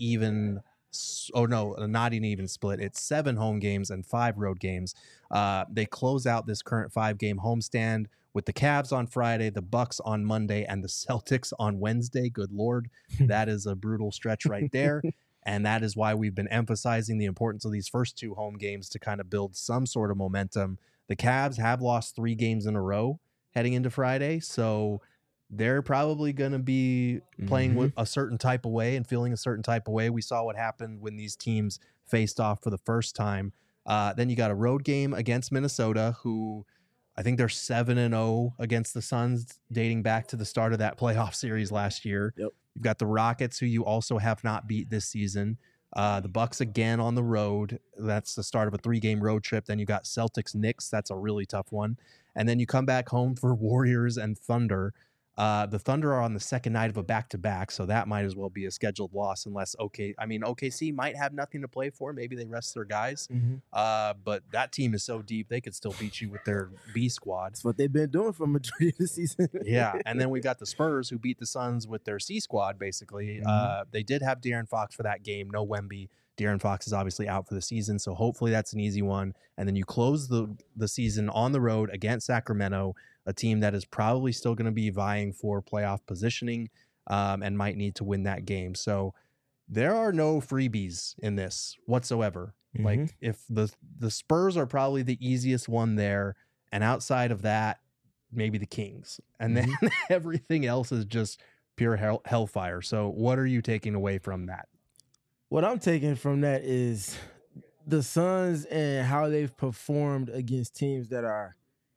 an even split. It's 7 home games and 5 road games. They close out this current 5-game homestand with the Cavs on Friday, the Bucks on Monday, and the Celtics on Wednesday. Good Lord, that is a brutal stretch right there. And that is why we've been emphasizing the importance of these first 2 home games to kind of build some sort of momentum. The Cavs have lost 3 games in a row heading into Friday, so they're probably going to be playing with a certain type of way and feeling a certain type of way. We saw what happened when these teams faced off for the first time. Then you got a road game against Minnesota, who I think they're 7-0 against the Suns dating back to the start of that playoff series last year. Yep. You've got the Rockets, who you also have not beat this season. The Bucks again on the road. That's the start of a 3-game road trip. Then you got Celtics, Knicks. That's a really tough one. And then you come back home for Warriors and Thunder. The Thunder are on the second night of a back-to-back, so that might as well be a scheduled loss unless OKC might have nothing to play for. Maybe they rest their guys. But that team is so deep, they could still beat you with their B squad. That's what they've been doing for majority of the season. Yeah, and then we've got the Spurs, who beat the Suns with their C squad, basically. They did have De'Aaron Fox for that game. No Wemby, De'Aaron Fox is obviously out for the season, so hopefully that's an easy one. And then you close the season on the road against Sacramento, a team that is probably still going to be vying for playoff positioning and might need to win that game. So there are no freebies in this whatsoever. Mm-hmm. Like if the Spurs are probably the easiest one there, and outside of that, maybe the Kings, and then everything else is just pure hellfire. So what are you taking away from that? What I'm taking from that is the Suns and how they've performed against teams that are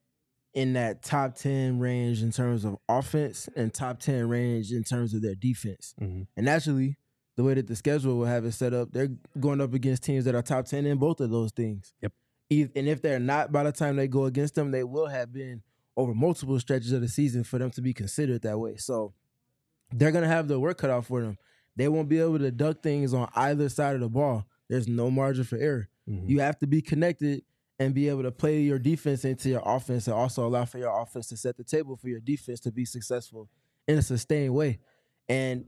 in that top 10 range in terms of offense and top 10 range in terms of their defense. Mm-hmm. And naturally, the way that the schedule will have it set up, they're going up against teams that are top 10 in both of those things. Yep. And if they're not, by the time they go against them, they will have been over multiple stretches of the season for them to be considered that way. So they're going to have the work cut out for them. They won't be able to duck things on either side of the ball. There's no margin for error. Mm-hmm. You have to be connected and be able to play your defense into your offense and also allow for your offense to set the table for your defense to be successful in a sustained way. And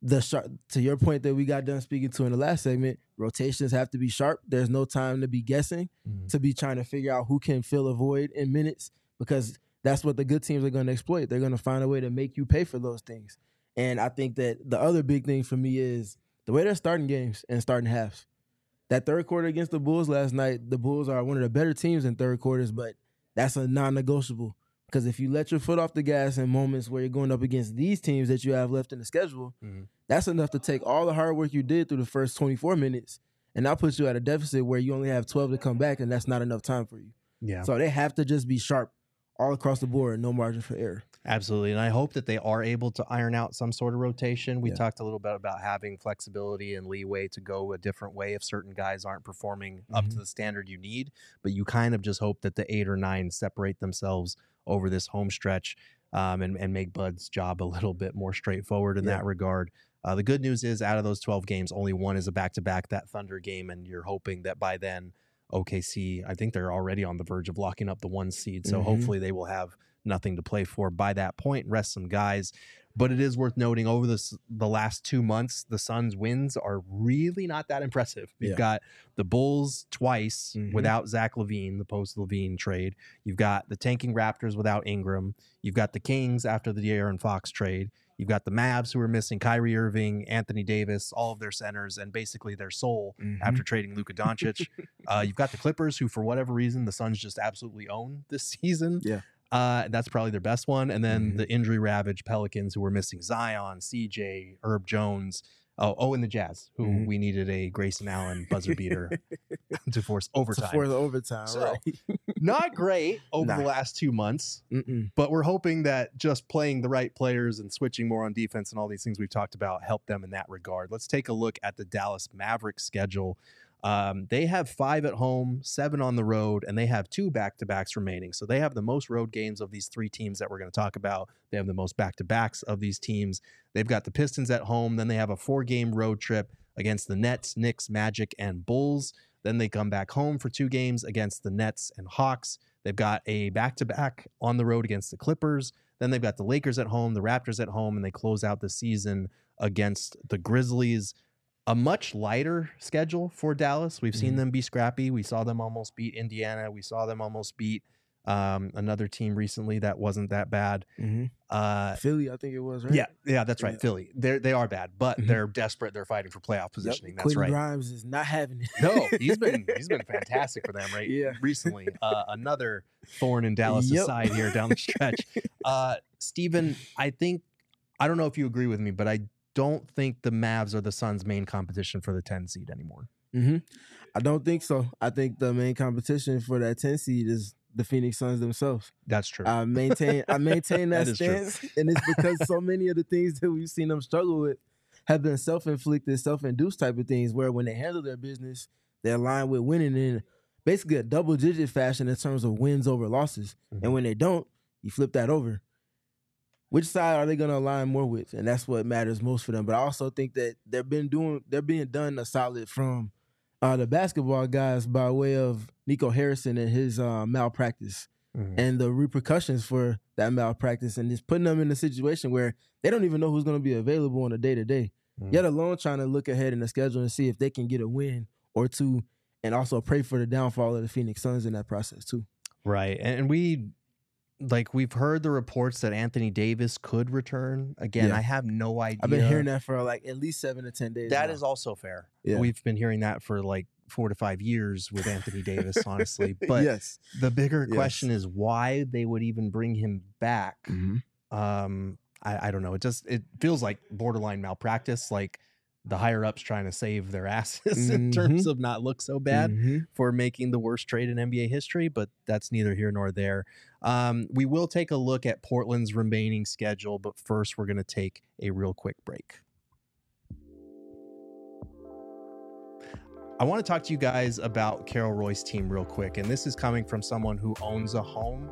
to your point that we got done speaking to in the last segment, rotations have to be sharp. There's no time to be guessing, to be trying to figure out who can fill a void in minutes, because that's what the good teams are going to exploit. They're going to find a way to make you pay for those things. And I think that the other big thing for me is the way they're starting games and starting halves. That third quarter against the Bulls last night, the Bulls are one of the better teams in third quarters, but that's a non-negotiable. Because if you let your foot off the gas in moments where you're going up against these teams that you have left in the schedule, that's enough to take all the hard work you did through the first 24 minutes and now put you at a deficit where you only have 12 to come back, and that's not enough time for you. Yeah. So they have to just be sharp all across the board, no margin for error. Absolutely. And I hope that they are able to iron out some sort of rotation. We talked a little bit about having flexibility and leeway to go a different way if certain guys aren't performing up to the standard you need. But you kind of just hope that the 8 or 9 separate themselves over this home stretch and make Bud's job a little bit more straightforward in that regard. The good news is out of those 12 games, only one is a back-to-back, that Thunder game, and you're hoping that by then OKC, I think they're already on the verge of locking up the 1 seed. So hopefully they will have nothing to play for by that point, rest some guys. But it is worth noting over the last 2 months, the Suns' wins are really not that impressive. You've got the Bulls twice without Zach LaVine, the post-LaVine trade. You've got the tanking Raptors without Ingram. You've got the Kings after the De'Aaron Fox trade. You've got the Mavs who are missing Kyrie Irving, Anthony Davis, all of their centers, and basically their soul after trading Luka Doncic. You've got the Clippers who, for whatever reason, the Suns just absolutely own this season. Yeah. That's probably their best one. And then the injury-ravaged Pelicans who were missing Zion, CJ, Herb Jones. And the Jazz, who we needed a Grayson Allen buzzer beater to force overtime. So, right. Not great over the last 2 months, but we're hoping that just playing the right players and switching more on defense and all these things we've talked about help them in that regard. Let's take a look at the Dallas Mavericks schedule. They have 5 at home, 7 on the road, and they have 2 back-to-backs remaining. So they have the most road games of these 3 teams that we're going to talk about. They have the most back-to-backs of these teams. They've got the Pistons at home. Then they have a 4-game road trip against the Nets, Knicks, Magic, and Bulls. Then they come back home for 2 games against the Nets and Hawks. They've got a back-to-back on the road against the Clippers. Then they've got the Lakers at home, the Raptors at home, and they close out the season against the Grizzlies. A much lighter schedule for Dallas. We've seen them be scrappy. We saw them almost beat Indiana. We saw them almost beat another team recently that wasn't that bad. Philly, I think it was, right? Yeah, that's right. Philly. They are bad, but they're desperate. They're fighting for playoff positioning. That's Quentin right. Grimes is not having it. No, he's been fantastic for them, right? Yeah. Recently, another thorn in Dallas' side here down the stretch. Steven, I don't know if you agree with me, but I don't think the Mavs are the Suns' main competition for the 10 seed anymore. I don't think so. I think the main competition for that 10 seed is the Phoenix Suns themselves. That's true. I maintain that stance, and it's because so many of the things that we've seen them struggle with have been self-inflicted, self-induced type of things, where when they handle their business, they align with winning in basically a double-digit fashion in terms of wins over losses. And when they don't, you flip that over. Which side are they going to align more with? And that's what matters most for them. But I also think that they're being done a solid from the basketball guys by way of Nico Harrison and his malpractice and the repercussions for that malpractice, and just putting them in a situation where they don't even know who's going to be available on a day-to-day. yet alone trying to look ahead in the schedule and see if they can get a win or two, and also pray for the downfall of the Phoenix Suns in that process too. Right. And we've heard the reports that Anthony Davis could return. Again, I have no idea. I've been hearing that for like at least 7 to 10 days. That is also fair. Yeah. We've been hearing that for like 4 to 5 years with Anthony Davis, honestly. But the bigger question is why they would even bring him back. I don't know. It feels like borderline malpractice. Like the higher ups trying to save their asses in terms of not look so bad for making the worst trade in NBA history, but that's neither here nor there. We will take a look at Portland's remaining schedule, but first we're going to take a real quick break. I want to talk to you guys about Carol Roy's team real quick, and this is coming from someone who owns a home.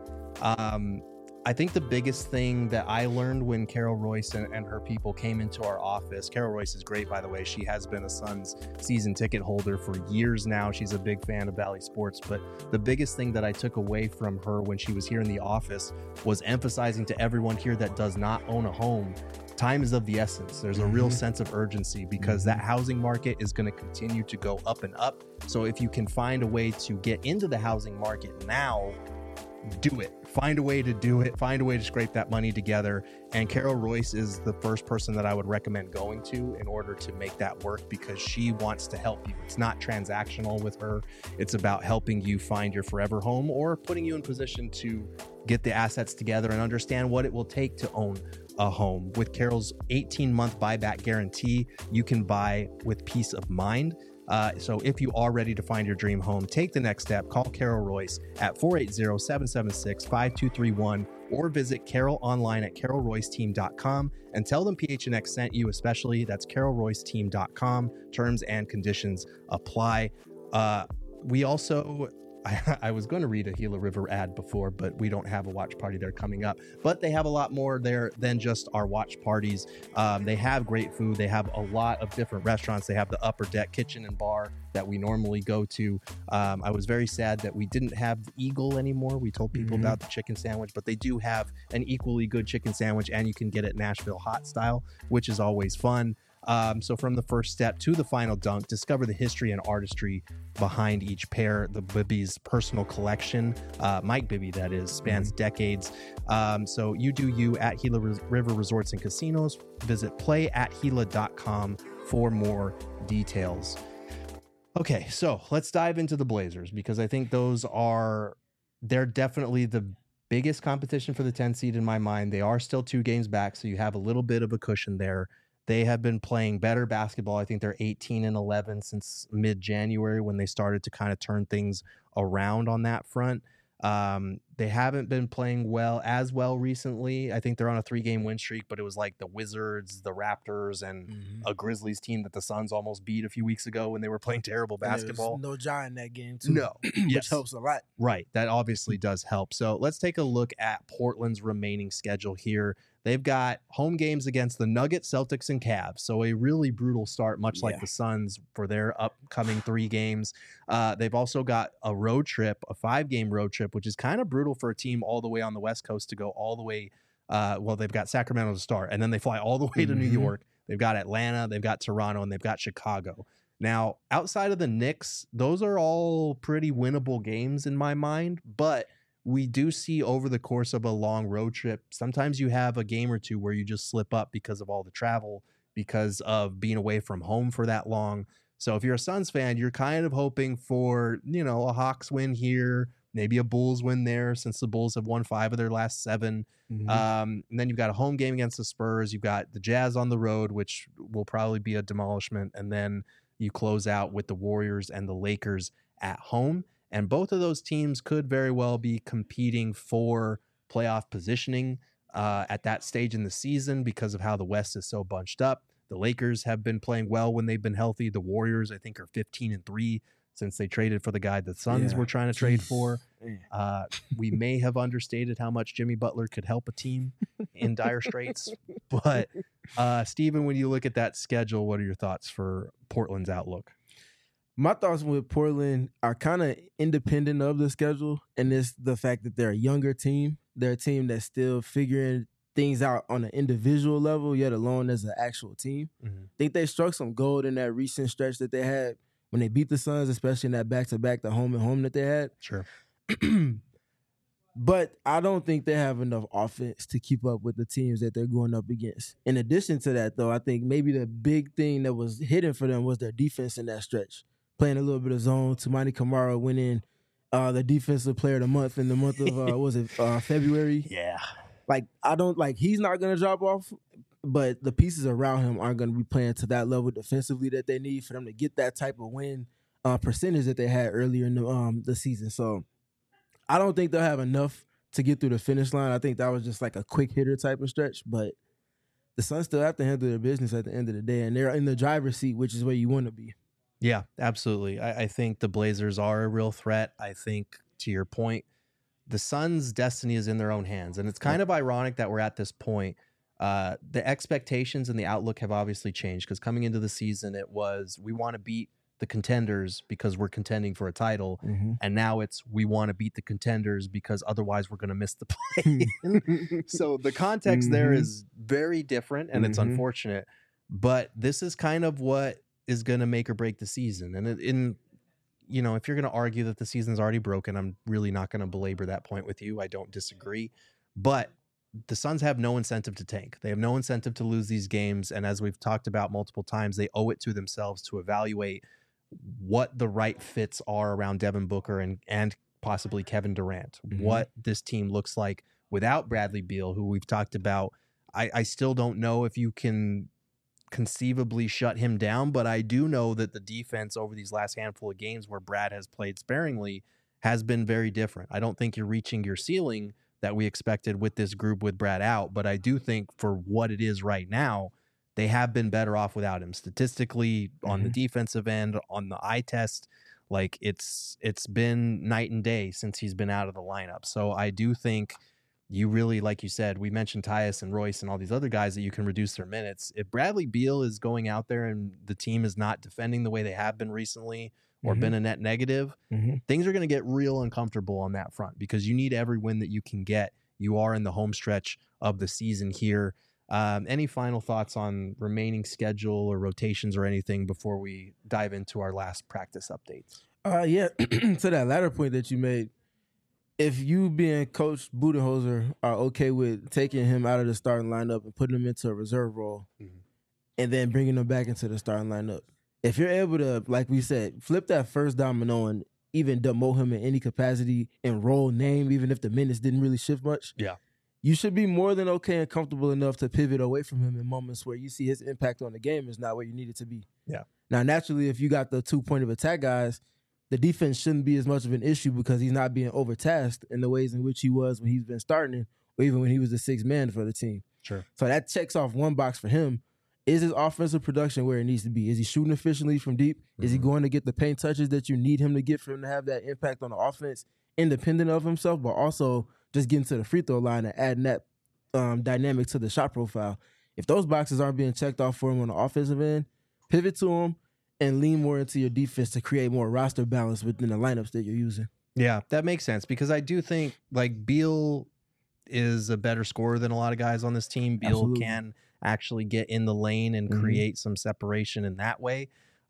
I think the biggest thing that I learned when Carol Royce and her people came into our office, Carol Royce is great, by the way. She has been a Suns season ticket holder for years now. She's a big fan of Valley Sports. But the biggest thing that I took away from her when she was here in the office was emphasizing to everyone here that does not own a home, time is of the essence. There's a real sense of urgency because that housing market is going to continue to go up and up. So if you can find a way to get into the housing market now, do it. Find a way to do it. Find a way to scrape that money together. And Carol Royce is the first person that I would recommend going to in order to make that work because she wants to help you. It's not transactional with her. It's about helping you find your forever home or putting you in position to get the assets together and understand what it will take to own a home. With Carol's 18-month buyback guarantee, you can buy with peace of mind. So if you are ready to find your dream home, take the next step. Call Carol Royce at 480-776-5231 or visit Carol online at carolroyceteam.com and tell them PHNX sent you, especially. That's carolroyceteam.com. Terms and conditions apply. We also... I was going to read a Gila River ad before, but we don't have a watch party there coming up. But they have a lot more there than just our watch parties. They have great food. They have a lot of different restaurants. They have the Upper Deck Kitchen and Bar that we normally go to. I was very sad that we didn't have the Eagle anymore. We told people about the chicken sandwich, but they do have an equally good chicken sandwich, and you can get it Nashville hot style, which is always fun. So from the first step to the final dunk, discover the history and artistry behind each pair. The Bibby's personal collection, Mike Bibby, that is, spans decades. So you do you at Gila River Resorts and Casinos. Visit playatgila.com for more details. Okay, so let's dive into the Blazers because I think they're definitely the biggest competition for the 10 seed in my mind. They are still 2 games back, so you have a little bit of a cushion there. They have been playing better basketball. I think they're 18-11 since mid-January when they started to kind of turn things around on that front. They haven't been playing as well recently. I think they're on a 3-game win streak, but it was like the Wizards, the Raptors, and a Grizzlies team that the Suns almost beat a few weeks ago when they were playing terrible basketball. No Ja in that game, too. No. Which helps a lot. Right. That obviously does help. So let's take a look at Portland's remaining schedule here. They've got home games against the Nuggets, Celtics, and Cavs. So a really brutal start, much like the Suns for their upcoming 3 games. They've also got a road trip, a 5-game road trip, which is kind of brutal for a team all the way on the West Coast to go all the way. They've got Sacramento to start, and then they fly all the way to New York. They've got Atlanta, they've got Toronto, and they've got Chicago. Now, outside of the Knicks, those are all pretty winnable games in my mind, but we do see over the course of a long road trip, sometimes you have a game or two where you just slip up because of all the travel, because of being away from home for that long. So if you're a Suns fan, you're kind of hoping for, a Hawks win here, maybe a Bulls win there since the Bulls have won 5 of their last 7. And then you've got a home game against the Spurs. You've got the Jazz on the road, which will probably be a demolishment. And then you close out with the Warriors and the Lakers at home. And both of those teams could very well be competing for playoff positioning at that stage in the season because of how the West is so bunched up. The Lakers have been playing well when they've been healthy. The Warriors, I think, are 15-3 since they traded for the guy the Suns were trying to trade for. We may have understated how much Jimmy Butler could help a team in dire straits. But, Steven, when you look at that schedule, what are your thoughts for Portland's outlook? My thoughts with Portland are kind of independent of the schedule, and it's the fact that they're a younger team. They're a team that's still figuring things out on an individual level, yet alone as an actual team. I think they struck some gold in that recent stretch that they had when they beat the Suns, especially in that back-to-back, the home and home that they had. Sure. But I don't think they have enough offense to keep up with the teams that they're going up against. In addition to that, though, I think maybe the big thing that was hidden for them was their defense in that stretch. Playing a little bit of zone. Toumani Camara winning the defensive player of the month in the month of February. Yeah. He's not going to drop off, but the pieces around him aren't going to be playing to that level defensively that they need for them to get that type of win percentage that they had earlier in the season. So I don't think they'll have enough to get through the finish line. I think that was just like a quick hitter type of stretch, but the Suns still have to handle their business at the end of the day, and they're in the driver's seat, which is where you want to be. Yeah, absolutely. I think the Blazers are a real threat. I think, to your point, the Suns' destiny is in their own hands, and it's kind of ironic that we're at this point. The expectations and the outlook have obviously changed, because coming into the season, it was we want to beat the contenders because we're contending for a title, and now it's we want to beat the contenders because otherwise we're going to miss the play. So the context there is very different, and it's unfortunate, but this is kind of what is going to make or break the season. And if you're going to argue that the season's already broken, I'm really not going to belabor that point with you. I don't disagree, but the Suns have no incentive to tank. They have no incentive to lose these games, and as we've talked about multiple times, they owe it to themselves to evaluate what the right fits are around Devin Booker and possibly Kevin Durant, what this team looks like without Bradley Beal, who we've talked about. I still don't know if you can conceivably shut him down, but I do know that the defense over these last handful of games where Brad has played sparingly has been very different. I don't think you're reaching your ceiling that we expected with this group with Brad out, but I do think for what it is right now, they have been better off without him. Statistically, on the defensive end, on the eye test, like it's been night and day since he's been out of the lineup. So I do think you really, like you said, we mentioned Tyus and Royce and all these other guys that you can reduce their minutes. If Bradley Beal is going out there and the team is not defending the way they have been recently or been a net negative, things are going to get real uncomfortable on that front, because you need every win that you can get. You are in the home stretch of the season here. Any final thoughts on remaining schedule or rotations or anything before we dive into our last practice updates? Yeah, to that latter point that you made, if you being Coach Budenholzer are okay with taking him out of the starting lineup and putting him into a reserve role and then bringing him back into the starting lineup, if you're able to, like we said, flip that first domino and even demote him in any capacity and role name, even if the minutes didn't really shift much, you should be more than okay and comfortable enough to pivot away from him in moments where you see his impact on the game is not where you need it to be. Yeah. Now, naturally, if you got the 2 point of attack guys, the defense shouldn't be as much of an issue because he's not being overtasked in the ways in which he was when he's been starting, or even when he was the sixth man for the team. Sure. So that checks off one box for him. Is his offensive production where it needs to be? Is he shooting efficiently from deep? Is he going to get the paint touches that you need him to get for him to have that impact on the offense, independent of himself, but also just getting to the free throw line and adding that dynamic to the shot profile? If those boxes aren't being checked off for him on the offensive end, pivot to him and lean more into your defense to create more roster balance within the lineups that you're using. Yeah, that makes sense, because I do think like Beal is a better scorer than a lot of guys on this team. Beal can actually get in the lane and create some separation in that way.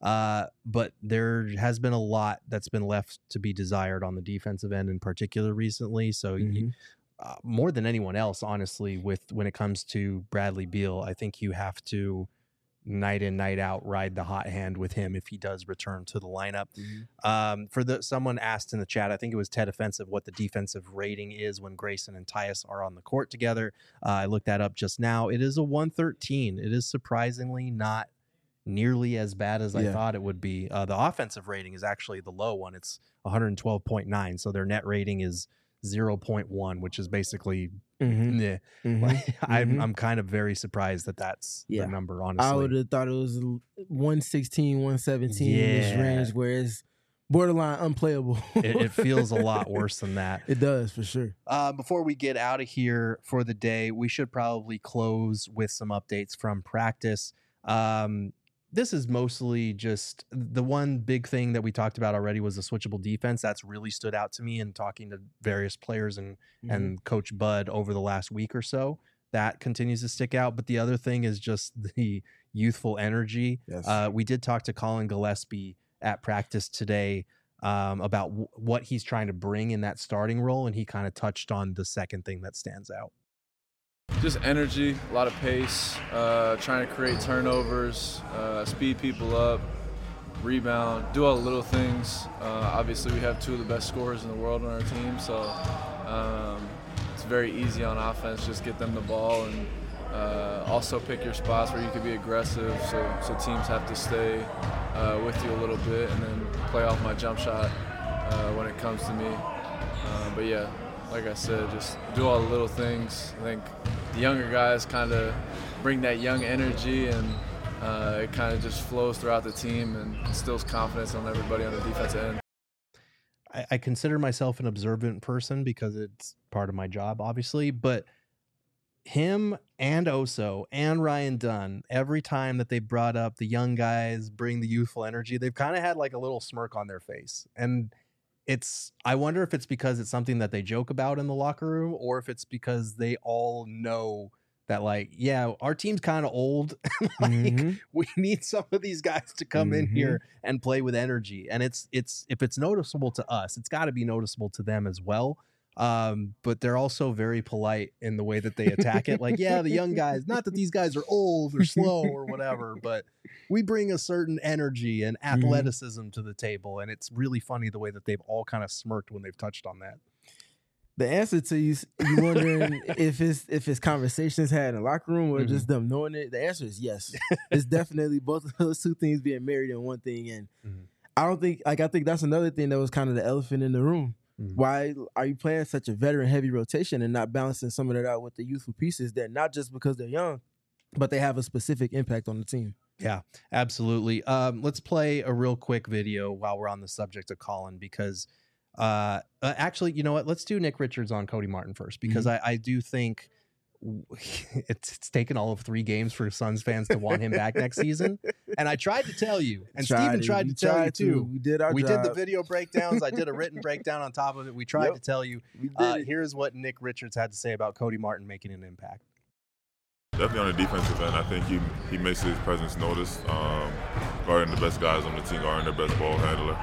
But there has been a lot that's been left to be desired on the defensive end in particular recently. So more than anyone else, honestly, when it comes to Bradley Beal, I think you have to night in, night out ride the hot hand with him if he does return to the lineup. Someone asked in the chat, I think it was Ted Offensive, what the defensive rating is when Grayson and Tyus are on the court together. I looked that up just now. It is a 113. It is surprisingly not nearly as bad as I thought it would be. The offensive rating is actually the low one. It's 112.9. So their net rating is 0.1, which is basically I'm kind of very surprised that that's the number, honestly. I would have thought it was 116, 117 in this range, where it's borderline unplayable. It feels a lot worse than that. It does, for sure. Before we get out of here for the day, we should probably close with some updates from practice. This is mostly just the one big thing that we talked about already was the switchable defense. That's really stood out to me in talking to various players and Coach Bud over the last week or so. that continues to stick out. But the other thing is just the youthful energy. Yes. We did talk to Colin Gillespie at practice today about what he's trying to bring in that starting role, and he kind of touched on the second thing that stands out. Just energy, a lot of pace, trying to create turnovers, speed people up, rebound, do all the little things. Obviously, we have two of the best scorers in the world on our team, so it's very easy on offense. Just get them the ball and also pick your spots where you can be aggressive, so teams have to stay with you a little bit, and then play off my jump shot when it comes to me. But yeah, like I said, just do all the little things. I think the younger guys kind of bring that young energy, and it kind of just flows throughout the team and instills confidence on everybody on the defensive end. I consider myself an observant person because it's part of my job, obviously, but him and Oso and Ryan Dunn, every time that they brought up the young guys, bring the youthful energy, they've kind of had like a little smirk on their face. And I wonder if it's because it's something that they joke about in the locker room, or if it's because they all know that, like, yeah, our team's kind of old. We need some of these guys to come in here and play with energy. And it's if it's noticeable to us, it's got to be noticeable to them as well. But they're also very polite in the way that they attack it. Like, yeah, the young guys, not that these guys are old or slow or whatever, but we bring a certain energy and athleticism to the table. And it's really funny the way that they've all kind of smirked when they've touched on that. The answer to you wondering if it's conversations had in the locker room or just them knowing it, the answer is yes. It's definitely both of those two things being married in one thing. And I think that's another thing that was kind of the elephant in the room. Why are you playing such a veteran heavy rotation and not balancing some of that out with the youthful pieces that not just because they're young, but they have a specific impact on the team? Yeah, absolutely. Let's play a real quick video while we're on the subject of Colin, because actually, you know what? Let's do Nick Richards on Cody Martin first, because I do think it's taken all of 3 games for Suns fans to want him back next season. And I tried to tell you, and Steven tried to tell you too. We did our job. We did the video breakdowns. I did a written breakdown on top of it. We tried to tell you. Here's what Nick Richards had to say about Cody Martin making an impact. Definitely on the defensive end, I think he makes his presence noticed. Guarding the best guys on the team, guarding the best ball handler.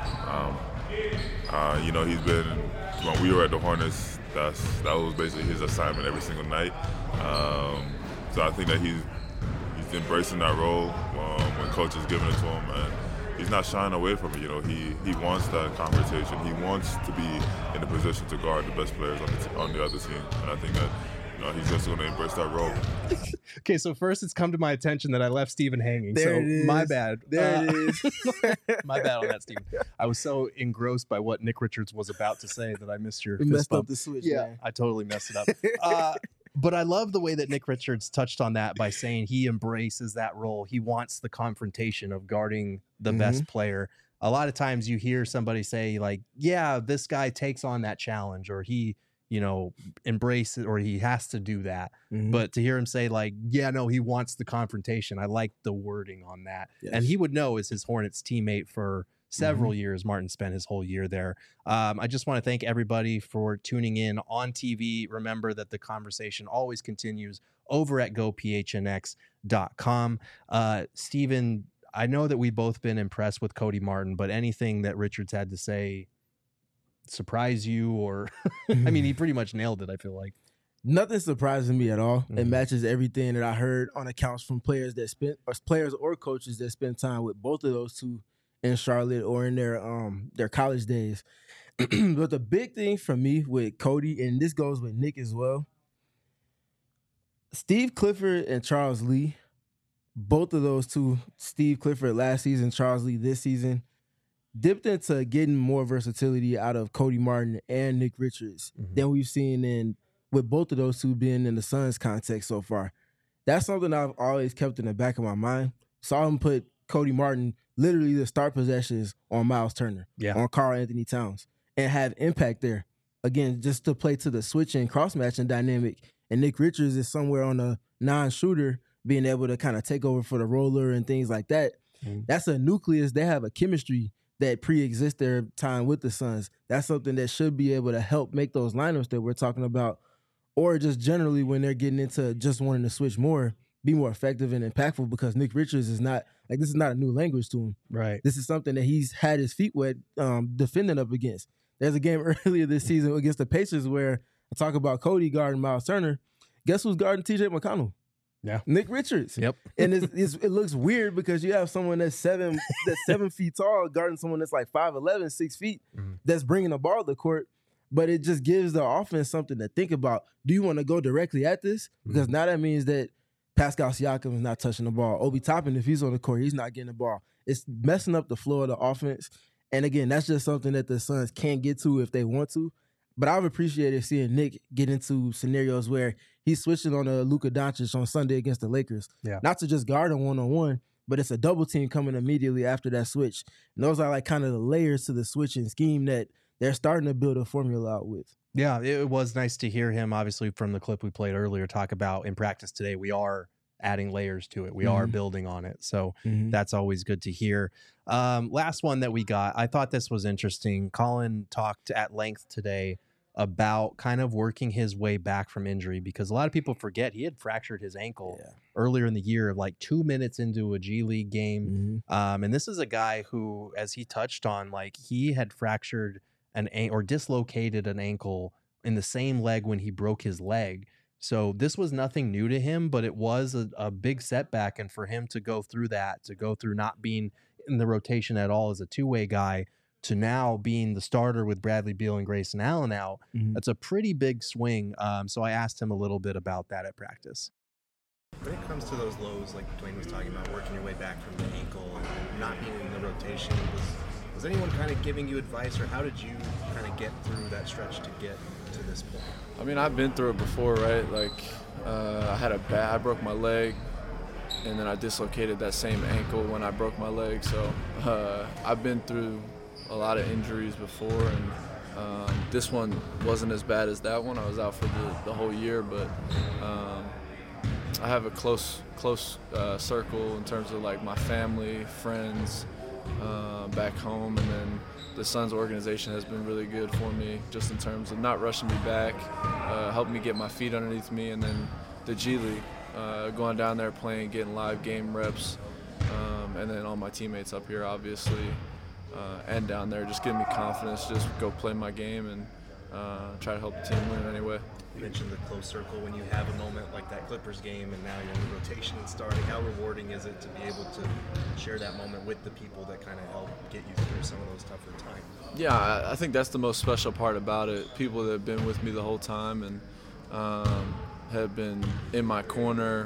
He's been, when we were at the Hornets, that was basically his assignment every single night. So I think that he's embracing that role when coach is giving it to him, and he's not shying away from it. He wants that confrontation. He wants to be in a position to guard the best players on the other team, and I think that he's just going to embrace that role. Okay, so first it's come to my attention that I left Steven hanging. There it is. My bad. There it is. My bad on that, Steven. I was so engrossed by what Nick Richards was about to say that I missed your We fist messed bump. up the switch. Yeah, Man. I totally messed it up. But I love the way that Nick Richards touched on that by saying he embraces that role. He wants the confrontation of guarding the best player. A lot of times you hear somebody say, like, yeah, this guy takes on that challenge, or he embrace it, or he has to do that. But to hear him say, like, yeah, no, he wants the confrontation. I like the wording on that. Yes. And he would know, as his Hornets teammate for several years, Martin spent his whole year there. I just want to thank everybody for tuning in on TV. Remember that the conversation always continues over at gophnx.com. Steven, I know that we've both been impressed with Cody Martin, but anything that Richards had to say surprise you, or I mean, he pretty much nailed it, I feel like. Nothing surprises me at all. It matches everything that I heard on accounts from players or coaches that spent time with both of those two in Charlotte or in their college days. But the big thing for me with Cody, and this goes with Nick as well, Steve Clifford and Charles Lee, both of those two, Steve Clifford last season, Charles Lee this season, dipped into getting more versatility out of Cody Martin and Nick Richards than we've seen with both of those two being in the Suns context so far. That's something I've always kept in the back of my mind. Saw him put Cody Martin literally the start possessions on Miles Turner, on Karl Anthony Towns, and have impact there. Again, just to play to the switch and cross-matching dynamic. And Nick Richards is somewhere on a non-shooter, being able to kind of take over for the roller and things like that. That's a nucleus. They have a chemistry that pre-exists their time with the Suns. That's something that should be able to help make those lineups that we're talking about or just generally when they're getting into just wanting to switch more, be more effective and impactful, because Nick Richards is not like, this is not a new language to him. Right. This is something that he's had his feet wet defending up against. There's a game earlier this season against the Pacers where I talk about Cody guarding Miles Turner. Guess who's guarding TJ McConnell? Yeah. Nick Richards. Yep. And it looks weird because you have someone that's 7 feet tall guarding someone that's like 5'11", 6 feet, that's bringing the ball to the court. But it just gives the offense something to think about. Do you want to go directly at this? Because now that means that Pascal Siakam is not touching the ball. Obi Toppin, if he's on the court, he's not getting the ball. It's messing up the flow of the offense. And again, that's just something that the Suns can't get to if they want to. But I've appreciated seeing Nick get into scenarios where he's switching on a Luka Doncic on Sunday against the Lakers. Yeah. Not to just guard him one-on-one, but it's a double team coming immediately after that switch. And those are like kind of the layers to the switching scheme that they're starting to build a formula out with. Yeah, it was nice to hear him, obviously, from the clip we played earlier, talk about in practice today, we are adding layers to it. We are building on it. So that's always good to hear. Last one that we got, I thought this was interesting. Colin talked at length today about kind of working his way back from injury, because a lot of people forget he had fractured his ankle earlier in the year, like 2 minutes into a G League game. And this is a guy who, as he touched on, like he had fractured or dislocated an ankle in the same leg when he broke his leg. So this was nothing new to him, but it was a big setback. And for him to go through that, to go through not being in the rotation at all as a two-way guy, to now being the starter with Bradley Beal and Grayson Allen out, that's a pretty big swing. So I asked him a little bit about that at practice. When it comes to those lows, like Dwayne was talking about, working your way back from the ankle and not being in the rotation, was anyone kind of giving you advice, or how did you kind of get through that stretch to get to this point? I mean, I've been through it before, right? Like, I broke my leg, and then I dislocated that same ankle when I broke my leg. So I've been through a lot of injuries before, and this one wasn't as bad as that one. I was out for the whole year, but I have a close circle in terms of like my family, friends back home, and then the Suns organization has been really good for me just in terms of not rushing me back, helping me get my feet underneath me, and then the G League, going down there playing, getting live game reps, and then all my teammates up here obviously, and down there just giving me confidence, just go play my game and try to help the team win anyway. You mentioned the close circle. When you have a moment like that Clippers game and now you're in the rotation and starting, how rewarding is it to be able to share that moment with the people that kind of help get you through some of those tougher times? Yeah, I think that's the most special part about it. People that have been with me the whole time and have been in my corner,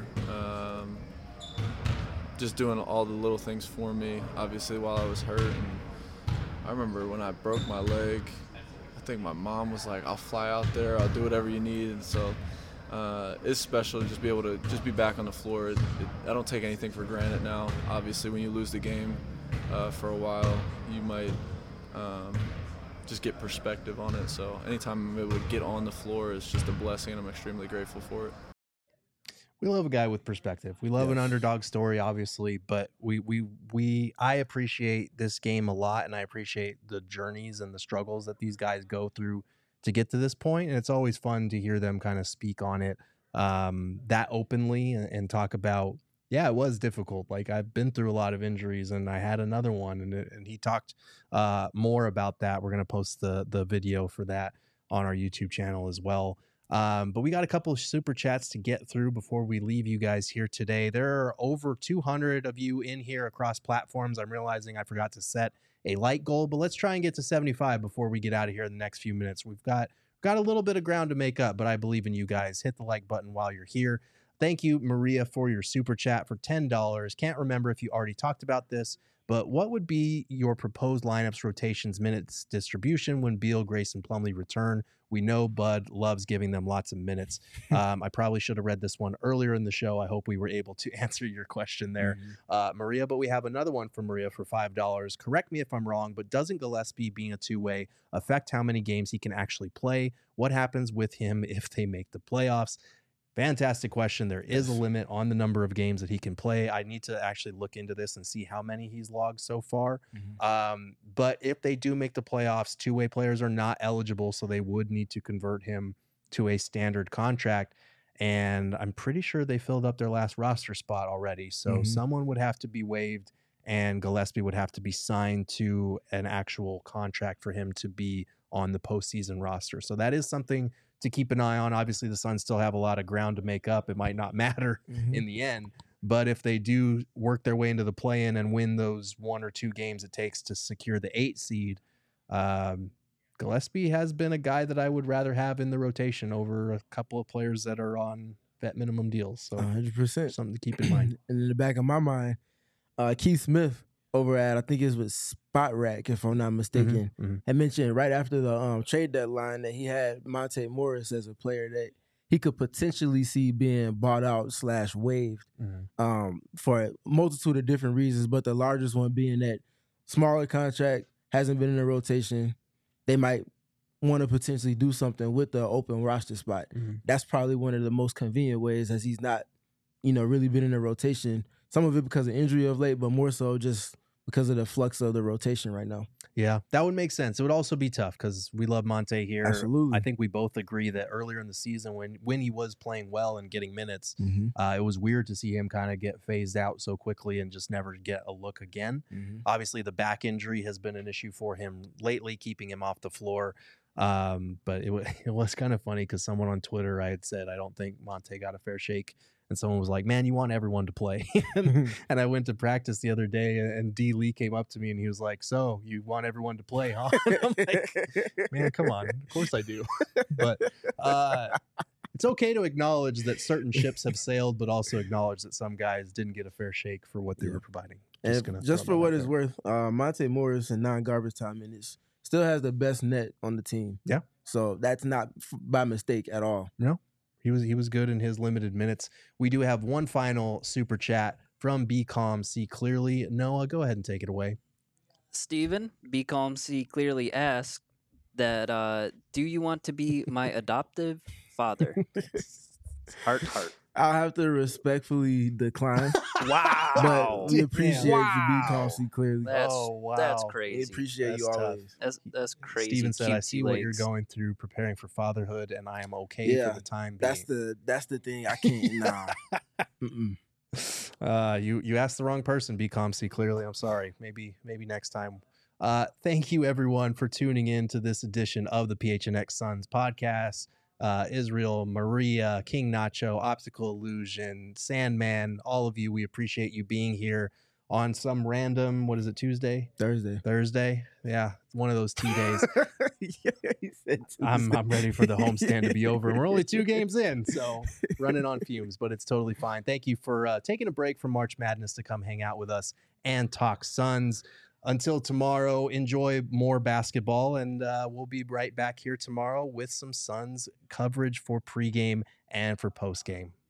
just doing all the little things for me, obviously, while I was hurt. And I remember when I broke my leg, I think my mom was like, I'll fly out there, I'll do whatever you need. And so it's special to just be able to just be back on the floor. I don't take anything for granted now. Obviously, when you lose the game for a while, you might just get perspective on it. So anytime I'm able to get on the floor is just a blessing, and I'm extremely grateful for it. We love a guy with perspective. We love an underdog story, obviously, but I appreciate this game a lot, and I appreciate the journeys and the struggles that these guys go through to get to this point. And it's always fun to hear them kind of speak on it that openly and talk about, yeah, it was difficult. Like, I've been through a lot of injuries, and I had another one, and he talked more about that. We're going to post the video for that on our YouTube channel as well. But we got a couple of super chats to get through before we leave you guys here today. There are over 200 of you in here across platforms. I'm realizing I forgot to set a like goal, but let's try and get to 75 before we get out of here in the next few minutes. We've got a little bit of ground to make up, but I believe in you guys. Hit the like button while you're here. Thank you, Maria, for your super chat for $10. Can't remember if you already talked about this, but what would be your proposed lineups, rotations, minutes distribution when Beal, Grayson, Plumlee return? We know Bud loves giving them lots of minutes. I probably should have read this one earlier in the show. I hope we were able to answer your question there, Maria. But we have another one from Maria for $5. Correct me if I'm wrong, but doesn't Gillespie being a two-way affect how many games he can actually play? What happens with him if they make the playoffs? Fantastic question. There is a limit on the number of games that he can play. I need to actually look into this and see how many he's logged so far. But if they do make the playoffs, two-way players are not eligible, so they would need to convert him to a standard contract. And I'm pretty sure they filled up their last roster spot already. So someone would have to be waived, and Gillespie would have to be signed to an actual contract for him to be on the postseason roster. So that is something to keep an eye on. Obviously, the Suns still have a lot of ground to make up. It might not matter in the end. But if they do work their way into the play-in and win those 1 or 2 games it takes to secure the 8 seed, Gillespie has been a guy that I would rather have in the rotation over a couple of players that are on vet minimum deals. So 100%. Something to keep in mind. And in the back of my mind, Keith Smith over at, I think it was Spot Rack, if I'm not mistaken, had mentioned right after the trade deadline that he had Monte Morris as a player that he could potentially see being bought out / waived for a multitude of different reasons, but the largest one being that smaller contract, hasn't been in the rotation. They might want to potentially do something with the open roster spot. That's probably one of the most convenient ways, as he's not, really been in the rotation. Some of it because of injury of late, but more so just because of the flux of the rotation right now. Yeah, that would make sense. It would also be tough because we love Monte here. Absolutely. I think we both agree that earlier in the season when he was playing well and getting minutes, it was weird to see him kind of get phased out so quickly and just never get a look again. Obviously, the back injury has been an issue for him lately, keeping him off the floor. But it was kind of funny because someone on Twitter, I had said, I don't think Monte got a fair shake. And someone was like, man, you want everyone to play. And I went to practice the other day, and D. Lee came up to me, and he was like, so you want everyone to play, huh? And I'm like, man, come on. Of course I do. But it's okay to acknowledge that certain ships have sailed, but also acknowledge that some guys didn't get a fair shake for what they were providing. Just for what it's worth, Monte Morris in non-garbage time minutes still has the best net on the team. Yeah. So that's not by mistake at all. No. He was good in his limited minutes. We do have one final super chat from Be Calm, See Clearly. Noah, go ahead and take it away. Steven, Be Calm, See Clearly asked that, do you want to be my adoptive father? Heart. I'll have to respectfully decline. Wow. But we appreciate you, Be Calm, See Clearly. That's crazy. We appreciate you always. That's crazy. Steven said, I see what you're going through preparing for fatherhood, and I am okay for the time being. That's the thing. I can't, nah. You asked the wrong person, Be Calm, See Clearly. I'm sorry. Maybe next time. Thank you, everyone, for tuning in to this edition of the PHNX Suns podcast. Israel, Maria, King Nacho, Optical Illusion, Sandman, all of you, we appreciate you being here on some random, what is it, Tuesday? Thursday? Yeah, it's one of those T days. Yeah, he said Tuesday. I'm ready for the homestand to be over, and we're only 2 games in, so running on fumes, but it's totally fine. Thank you for taking a break from March Madness to come hang out with us and talk Suns. Until tomorrow, enjoy more basketball, and we'll be right back here tomorrow with some Suns coverage for pregame and for postgame.